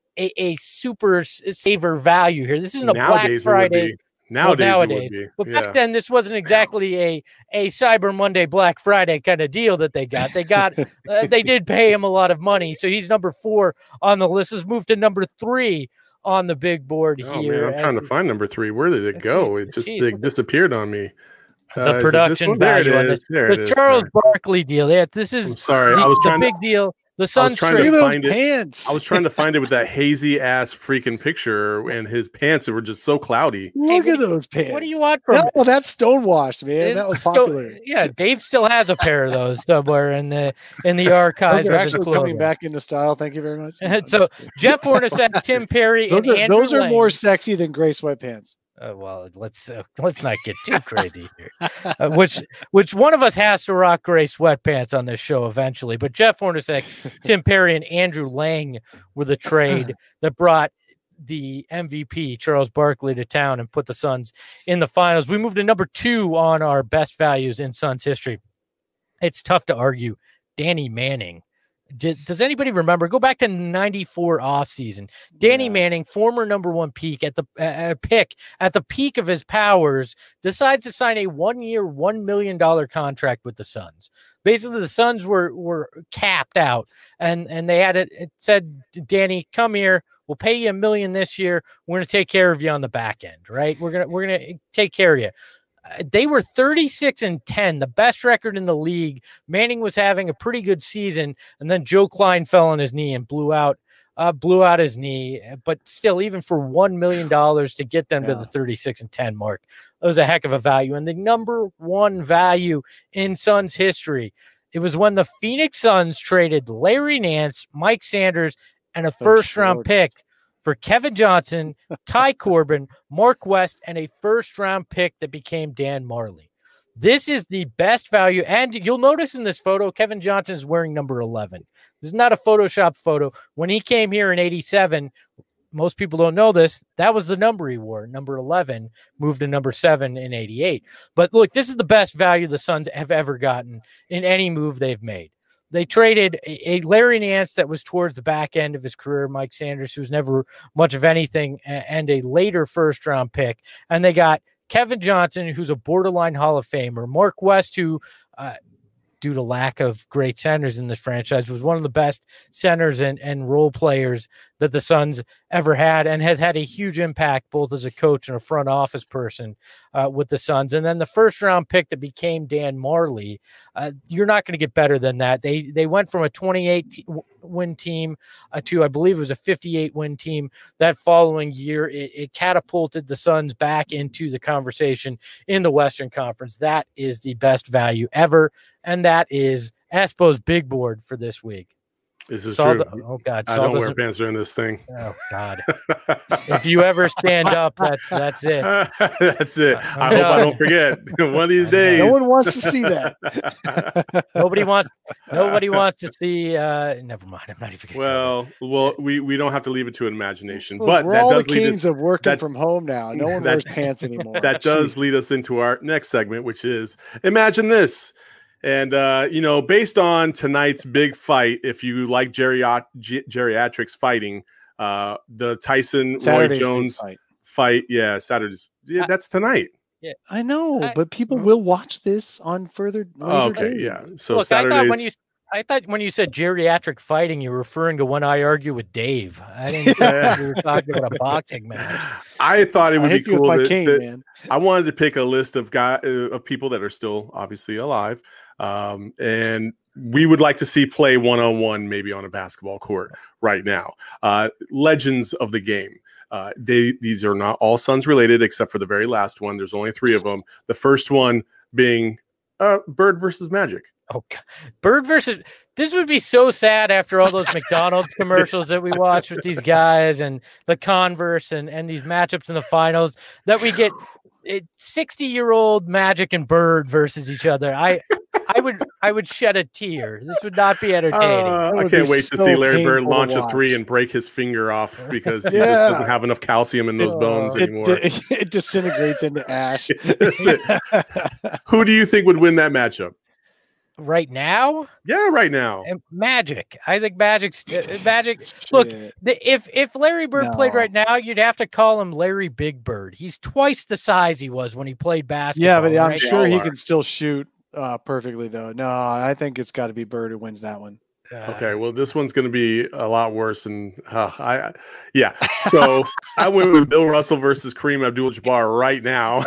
a super saver value here. This isn't a Black Friday. Nowadays. But back then, this wasn't exactly a Cyber Monday, Black Friday kind of deal that they got. They did pay him a lot of money. So he's number 4 on the list. Let's move to number 3 on the big board here. Man, I'm trying to find number 3. Where did it go? It just disappeared on me. The production value on this. The Charles Barkley deal. Yeah, this is the big deal. The Suns trying to find it. I was trying to find it with that hazy ass freaking picture, and his pants were just so cloudy. Look at those pants. What do you want from? Well, that's stonewashed, man. That was popular. Yeah, Dave still has a pair of those somewhere in the archives. Those are actually coming back into style. Thank you very much. So Jeff Hornacek, Tim Perry, and Andrew those are Lang. more sexy than gray sweatpants. Well, let's not get too crazy here. Which one of us has to rock gray sweatpants on this show eventually? But Jeff Hornacek, Tim Perry, and Andrew Lang were the trade that brought the MVP Charles Barkley to town and put the Suns in the finals. We moved to number 2 on our best values in Suns history. It's tough to argue. Danny Manning. Does anybody remember? Go back to 94 offseason. Danny Manning, former number 1 pick at the peak of his powers, decides to sign a 1-year, $1 million contract with the Suns. Basically, the Suns were capped out, and they had it said, Danny, come here. We'll pay you $1 million this year. We're going to take care of you on the back end, right? We're gonna take care of you. They were 36-10, the best record in the league. Manning was having a pretty good season, and then Joe Klein fell on his knee and blew out his knee. But still, even for $1 million to get them to the 36-10 mark, it was a heck of a value. And the number 1 value in Suns history, it was when the Phoenix Suns traded Larry Nance, Mike Sanders, and a first-round pick for Kevin Johnson, Ty Corbin, Mark West, and a first-round pick that became Dan Marley. This is the best value. And you'll notice in this photo, Kevin Johnson is wearing number 11. This is not a Photoshop photo. When he came here in 87, most people don't know this. That was the number he wore. Number 11 moved to number 7 in 88. But look, this is the best value the Suns have ever gotten in any move they've made. They traded a Larry Nance that was towards the back end of his career, Mike Sanders, who was never much of anything, and a later first-round pick. And they got Kevin Johnson, who's a borderline Hall of Famer, Mark West, who due to lack of great centers in this franchise, was one of the best centers and role players that the Suns ever had, and has had a huge impact both as a coach and a front office person with the Suns. And then the first round pick that became Dan Marley, you're not going to get better than that. They went from a 28 win team to, I believe it was a 58 win team that following year. It catapulted the Suns back into the conversation in the Western Conference. That is the best value ever. And that is Espo's big board for this week. This is true. Oh God! I don't wear pants during this thing. Oh God! If you ever stand up, that's it. That's it. I hope I don't forget. One of these days. No one wants to see that. Nobody wants to see. Never mind. I'm not even. Well, we don't have to leave it to imagination. Look, but we're that all does the lead kings us of working from home now. No one wears pants anymore. That does lead us into our next segment, which is Imagine This. And, based on tonight's big fight, if you like geriatrics fighting, the Tyson Saturday's Roy Jones fight. Yeah, Saturday's. Yeah, that's tonight. Yeah, I know, but people will watch this on further. Okay, days. yeah. So look, Saturday's. I thought when you said geriatric fighting, you were referring to when I argue with Dave. I didn't think you were talking about a boxing match. I thought it would be cool. Man. I wanted to pick a list of people that are still obviously alive. And we would like to see play one-on-one, maybe on a basketball court right now. Legends of the game. These are not all Suns related, except for the very last one. There's only 3 of them. The first one being Bird versus Magic. Oh, God. Bird versus. This would be so sad after all those McDonald's commercials that we watch with these guys and the Converse and these matchups in the finals that we get 60-year-old Magic and Bird versus each other. I would shed a tear. This would not be entertaining. I can't wait to see Larry Bird launch a 3 and break his finger off because he just doesn't have enough calcium in those bones anymore. It disintegrates into ash. Who do you think would win that matchup? Right now? Yeah, right now. Magic. I think Magic's Magic. Look, if Larry Bird played right now, you'd have to call him Larry Big Bird. He's twice the size he was when he played basketball. Yeah, but I'm sure he can still shoot perfectly, though. No, I think it's got to be Bird who wins that one. Okay, well, this one's going to be a lot worse. And so I went with Bill Russell versus Kareem Abdul-Jabbar right now.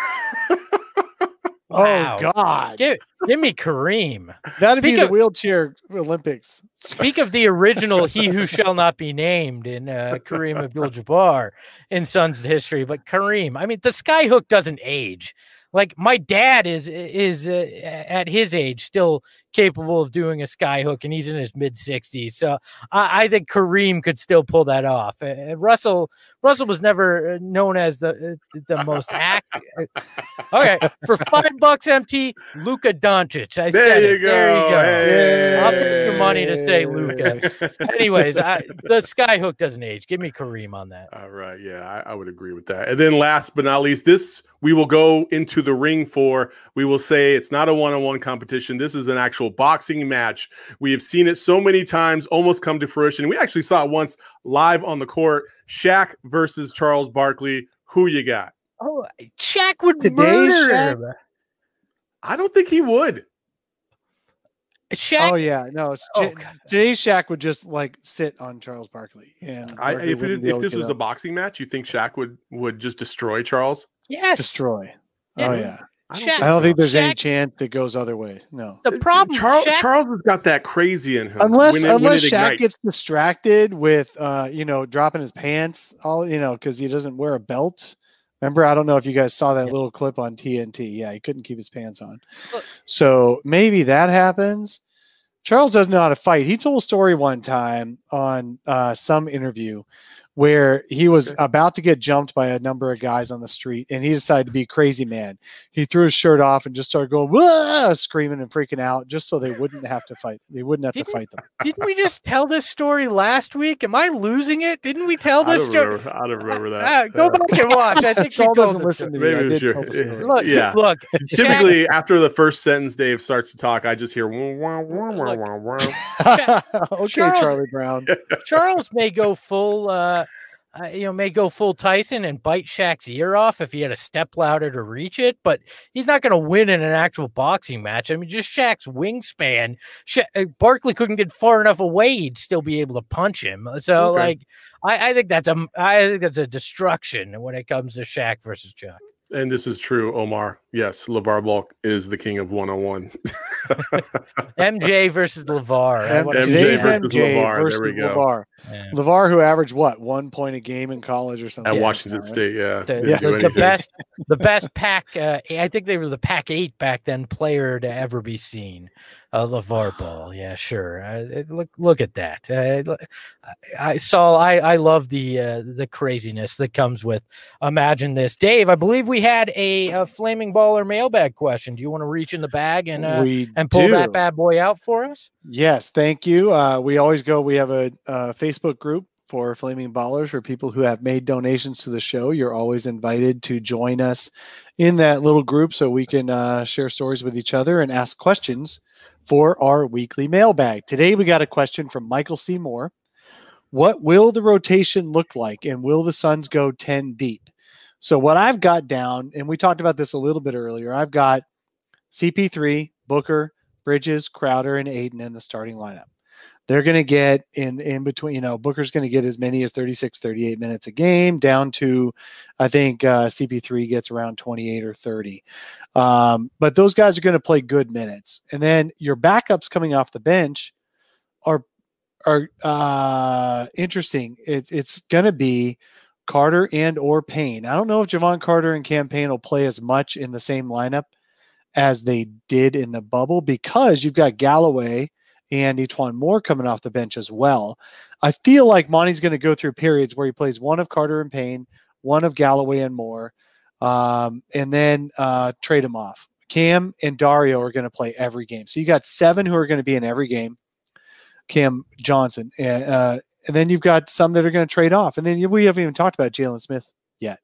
Wow. Oh God! Give me Kareem. That'd be the wheelchair Olympics. Speak of the original "He Who Shall Not Be Named" in Kareem Abdul-Jabbar in Suns history, but Kareem. I mean, the skyhook doesn't age. Like my dad is at his age still capable of doing a skyhook, and he's in his mid-60s. So I think Kareem could still pull that off. Russell was never known as the most active. Okay, for $5 MT, Luka Doncic. There you go. Hey. I'll pay your money to say Luka. Anyways, the skyhook doesn't age. Give me Kareem on that. All right, yeah, I would agree with that. And then last but not least, this we will go into the ring for. We will say it's not a one-on-one competition. This is an actual boxing match. We have seen it so many times, almost come to fruition. We actually saw it once live on the court. Shaq versus Charles Barkley. Who you got? Oh, Shaq would murder him. I don't think he would. Shaq? Oh yeah, no. Today's Shaq would just like sit on Charles Barkley. And if this was a boxing match, you think Shaq would just destroy Charles? Yes, destroy. Yeah. Oh yeah. I don't think there's any chance that goes other way. No. The problem, Charles has got that crazy in him. Unless Shaq gets distracted with, dropping his pants, because he doesn't wear a belt. Remember, I don't know if you guys saw that little clip on TNT. Yeah, he couldn't keep his pants on. So maybe that happens. Charles doesn't know how to fight. He told a story one time on some interview where he was about to get jumped by a number of guys on the street, and he decided to be crazy man. He threw his shirt off and just started going, "Wah!" Screaming and freaking out, just so they wouldn't have to fight. They wouldn't have to fight them. Didn't we just tell this story last week? Am I losing it? Didn't we tell this story? I don't remember that. Go back and watch. I think Saul we told doesn't the listen to story. me. I Maybe did sure. tell the story. Look, Yeah. look. Typically, after the first sentence Dave starts to talk, I just hear wah, wah, wah, wah, wah, wah. Okay, Charles- Charlie Brown. Charles may go full, may go full Tyson and bite Shaq's ear off if he had a step louder to reach it, but he's not going to win in an actual boxing match. I mean, just Shaq's wingspan. Barkley couldn't get far enough away; he'd still be able to punch him. So, Okay. I think that's a destruction when it comes to Shaq versus Chuck. And this is true, Omar. Yes, LeVar Ball is the king of 101. MJ versus LeVar. Today's versus LeVar. versus There we go. LeVar. Yeah. LeVar, who averaged what, 1 point a game in college or something? At Yeah. Washington State, yeah. Didn't The, do the anything. best pack. I think they were the Pac 8 back then player to ever be seen. LeVar Ball. Yeah, sure. Look at that. I love the craziness that comes with Imagine This. Dave, I believe we had a Flaming Baller mailbag question. Do you want to reach in the bag and pull that bad boy out for us? Yes, thank you. We have a Facebook group for Flaming Ballers for people who have made donations to the show. You're always invited to join us in that little group so we can share stories with each other and ask questions for our weekly mailbag. Today we got a question from Michael C. Moore. What will the rotation look like, and will the Suns go 10 deep? So what I've got down, and we talked about this a little bit earlier, I've got CP3, Booker, Bridges, Crowder, and Aiden in the starting lineup. They're going to get in between, Booker's going to get as many as 36, 38 minutes a game down to, I think CP3 gets around 28 or 30. But those guys are going to play good minutes. And then your backups coming off the bench are interesting. It's going to be Carter and or Payne. I don't know if Javon Carter and Cam Payne will play as much in the same lineup as they did in the bubble, because you've got Galloway and Etuan Moore coming off the bench as well. I feel like Monty's going to go through periods where he plays one of Carter and Payne, one of Galloway and Moore, and then trade them off. Cam and Dario are going to play every game. So you got 7 who are going to be in every game. Cam Johnson. And then you've got some that are going to trade off. And then we haven't even talked about Jalen Smith yet.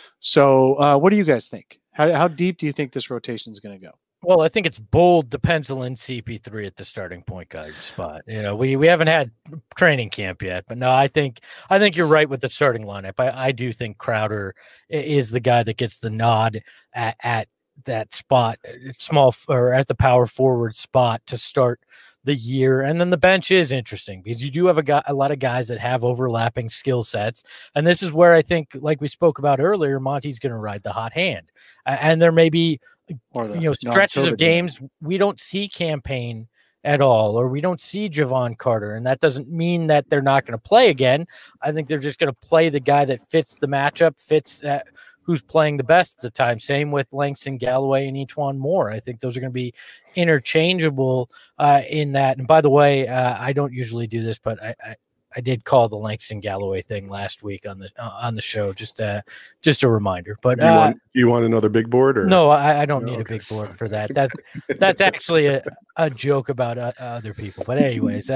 So what do you guys think? How deep do you think this rotation is going to go? Well, I think it's bold to pencil in CP3 at the starting point guard spot. We haven't had training camp yet, but no, I think you're right with the starting lineup. I do think Crowder is the guy that gets the nod at that spot, small or at the power forward spot to start the year. And then the bench is interesting because you do have a lot of guys that have overlapping skill sets. And this is where I think, like we spoke about earlier, Monty's going to ride the hot hand. And there may be stretches of games we don't see Cam Payne at all, or we don't see Javon Carter. And that doesn't mean that they're not going to play again. I think they're just going to play the guy that fits the matchup, fits who's playing the best at the time. Same with Langston Galloway and Etuan Moore. I think those are going to be interchangeable in that. And by the way, I don't usually do this, but I did call the Langston Galloway thing last week on the show. Just a reminder. But you want another big board? Or no, I don't need a big board for that. That's actually a joke about other people. But anyways,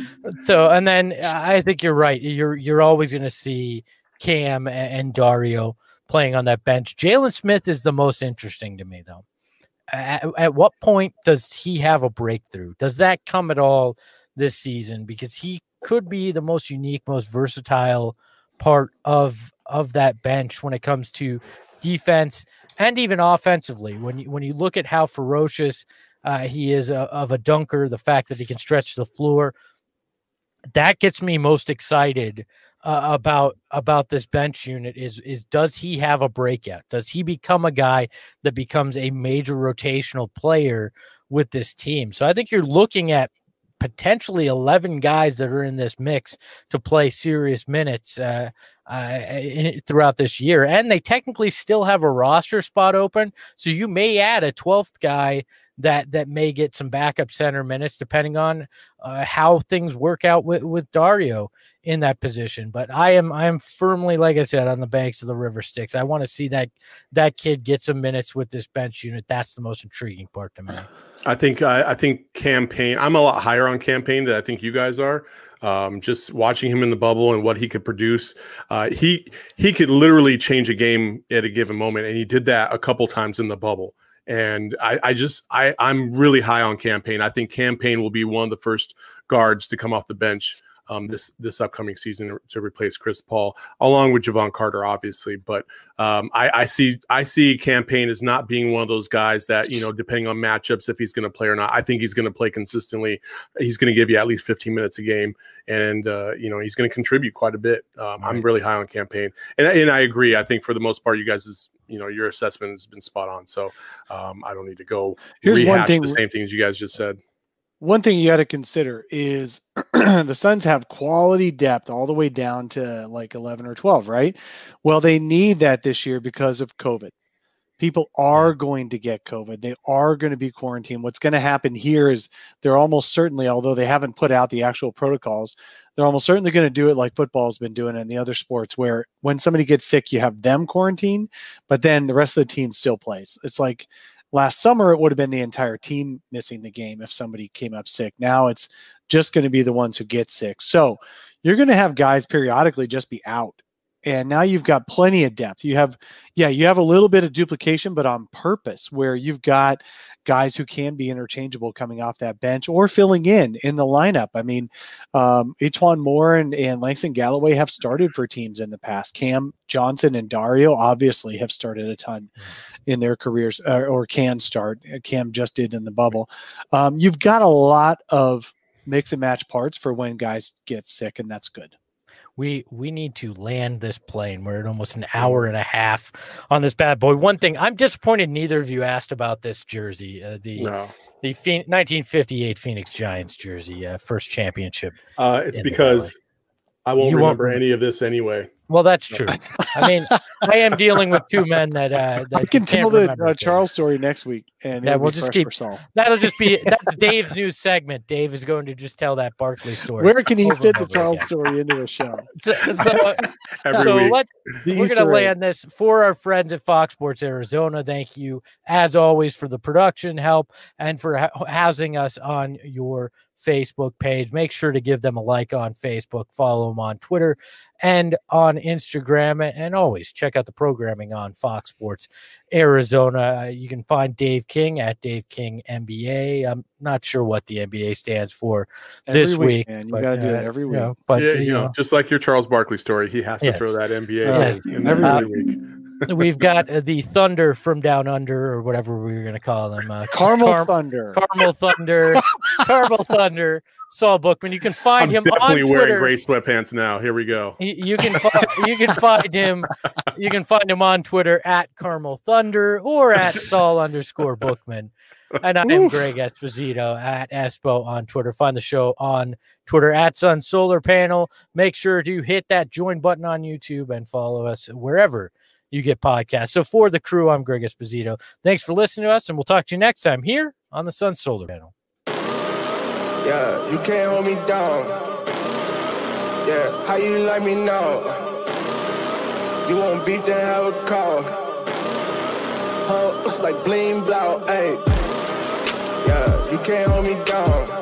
and then I think you're right. You're always going to see Cam and Dario playing on that bench. Jalen Smith is the most interesting to me, though. At what point does he have a breakthrough? Does that come at all this season? Because he could be the most unique, most versatile part of that bench when it comes to defense and even offensively. When you look at how ferocious he is of a dunker, the fact that he can stretch the floor, that gets me most excited about this bench unit is does he have a breakout? Does he become a guy that becomes a major rotational player with this team? So I think you're looking at potentially 11 guys that are in this mix to play serious minutes throughout this year. And they technically still have a roster spot open. So you may add a 12th guy that may get some backup center minutes depending on how things work out with Dario in that position. But I am firmly, like I said, on the banks of the river Styx. I want to see that kid get some minutes with this bench unit. That's the most intriguing part to me. I think Cam Payne, I'm a lot higher on Cam Payne than I think you guys are. Just watching him in the bubble and what he could produce, he could literally change a game at a given moment, and he did that a couple times in the bubble. And I'm really high on Cam Payne. I think Cam Payne will be one of the first guards to come off the bench this upcoming season to replace Chris Paul, along with Javon Carter, obviously. But I see Cam Payne as not being one of those guys that, depending on matchups, if he's going to play or not. I think he's going to play consistently. He's going to give you at least 15 minutes a game, and he's going to contribute quite a bit. I'm really high on Cam Payne, and I agree. I think for the most part, you guys your assessment has been spot on. So I don't need to go rehash the same things you guys just said. One thing you got to consider is the Suns have quality depth all the way down to like 11 or 12, right? Well, they need that this year because of COVID. People are going to get COVID. They are going to be quarantined. What's going to happen here is they're almost certainly, although they haven't put out the actual protocols, they're almost certainly going to do it like football has been doing in the other sports, where when somebody gets sick, you have them quarantined, but then the rest of the team still plays. It's like last summer, it would have been the entire team missing the game if somebody came up sick. Now it's just going to be the ones who get sick. So you're going to have guys periodically just be out. And now you've got plenty of depth. You have a little bit of duplication, but on purpose, where you've got guys who can be interchangeable coming off that bench or filling in the lineup. I mean, E'Twaun Moore and Langston Galloway have started for teams in the past. Cam Johnson and Dario obviously have started a ton in their careers, or can start. Cam just did in the bubble. You've got a lot of mix and match parts for when guys get sick, and that's good. We need to land this plane. We're at almost an hour and a half on this bad boy. One thing, I'm disappointed neither of you asked about this jersey, the 1958 Phoenix Giants jersey, first championship. It's because I won't remember any of this anyway. Well, that's true. I mean, I am dealing with two men that I can tell the Charles story next week, and we'll just keep. That's Dave's new segment. Dave is going to just tell that Barkley story. Where can he fit the Charles story into a show? We're going to land this for our friends at Fox Sports Arizona. Thank you, as always, for the production help and for housing us on your Facebook page. Make sure to give them a like on Facebook, follow them on Twitter and on Instagram, and always check out the programming on Fox Sports Arizona. You can find Dave King at Dave King NBA. I'm not sure what the NBA stands for this week. Man. You got to do it every week. Just like your Charles Barkley story, he has to throw that NBA in every week. We've got the Thunder from Down Under, or whatever we were going to call them. Caramel Thunder. Caramel Thunder. Saul Bookman. You can find him on Twitter. Wearing gray sweatpants now. Here we go. You can find him. You can find him on Twitter at Caramel Thunder or at Saul_Bookman. And I am Greg Esposito at Espo on Twitter. Find the show on Twitter at Sun Solar Panel. Make sure to hit that join button on YouTube and follow us wherever you get podcasts. So for the crew, I'm Greg Esposito. Thanks for listening to us, and we'll talk to you next time here on the Sun Solar Panel. Yeah, you can't hold me down. Yeah, how you like me now? You want beef, then have a call. Looks like bling blow, ayy. Yeah, you can't hold me down.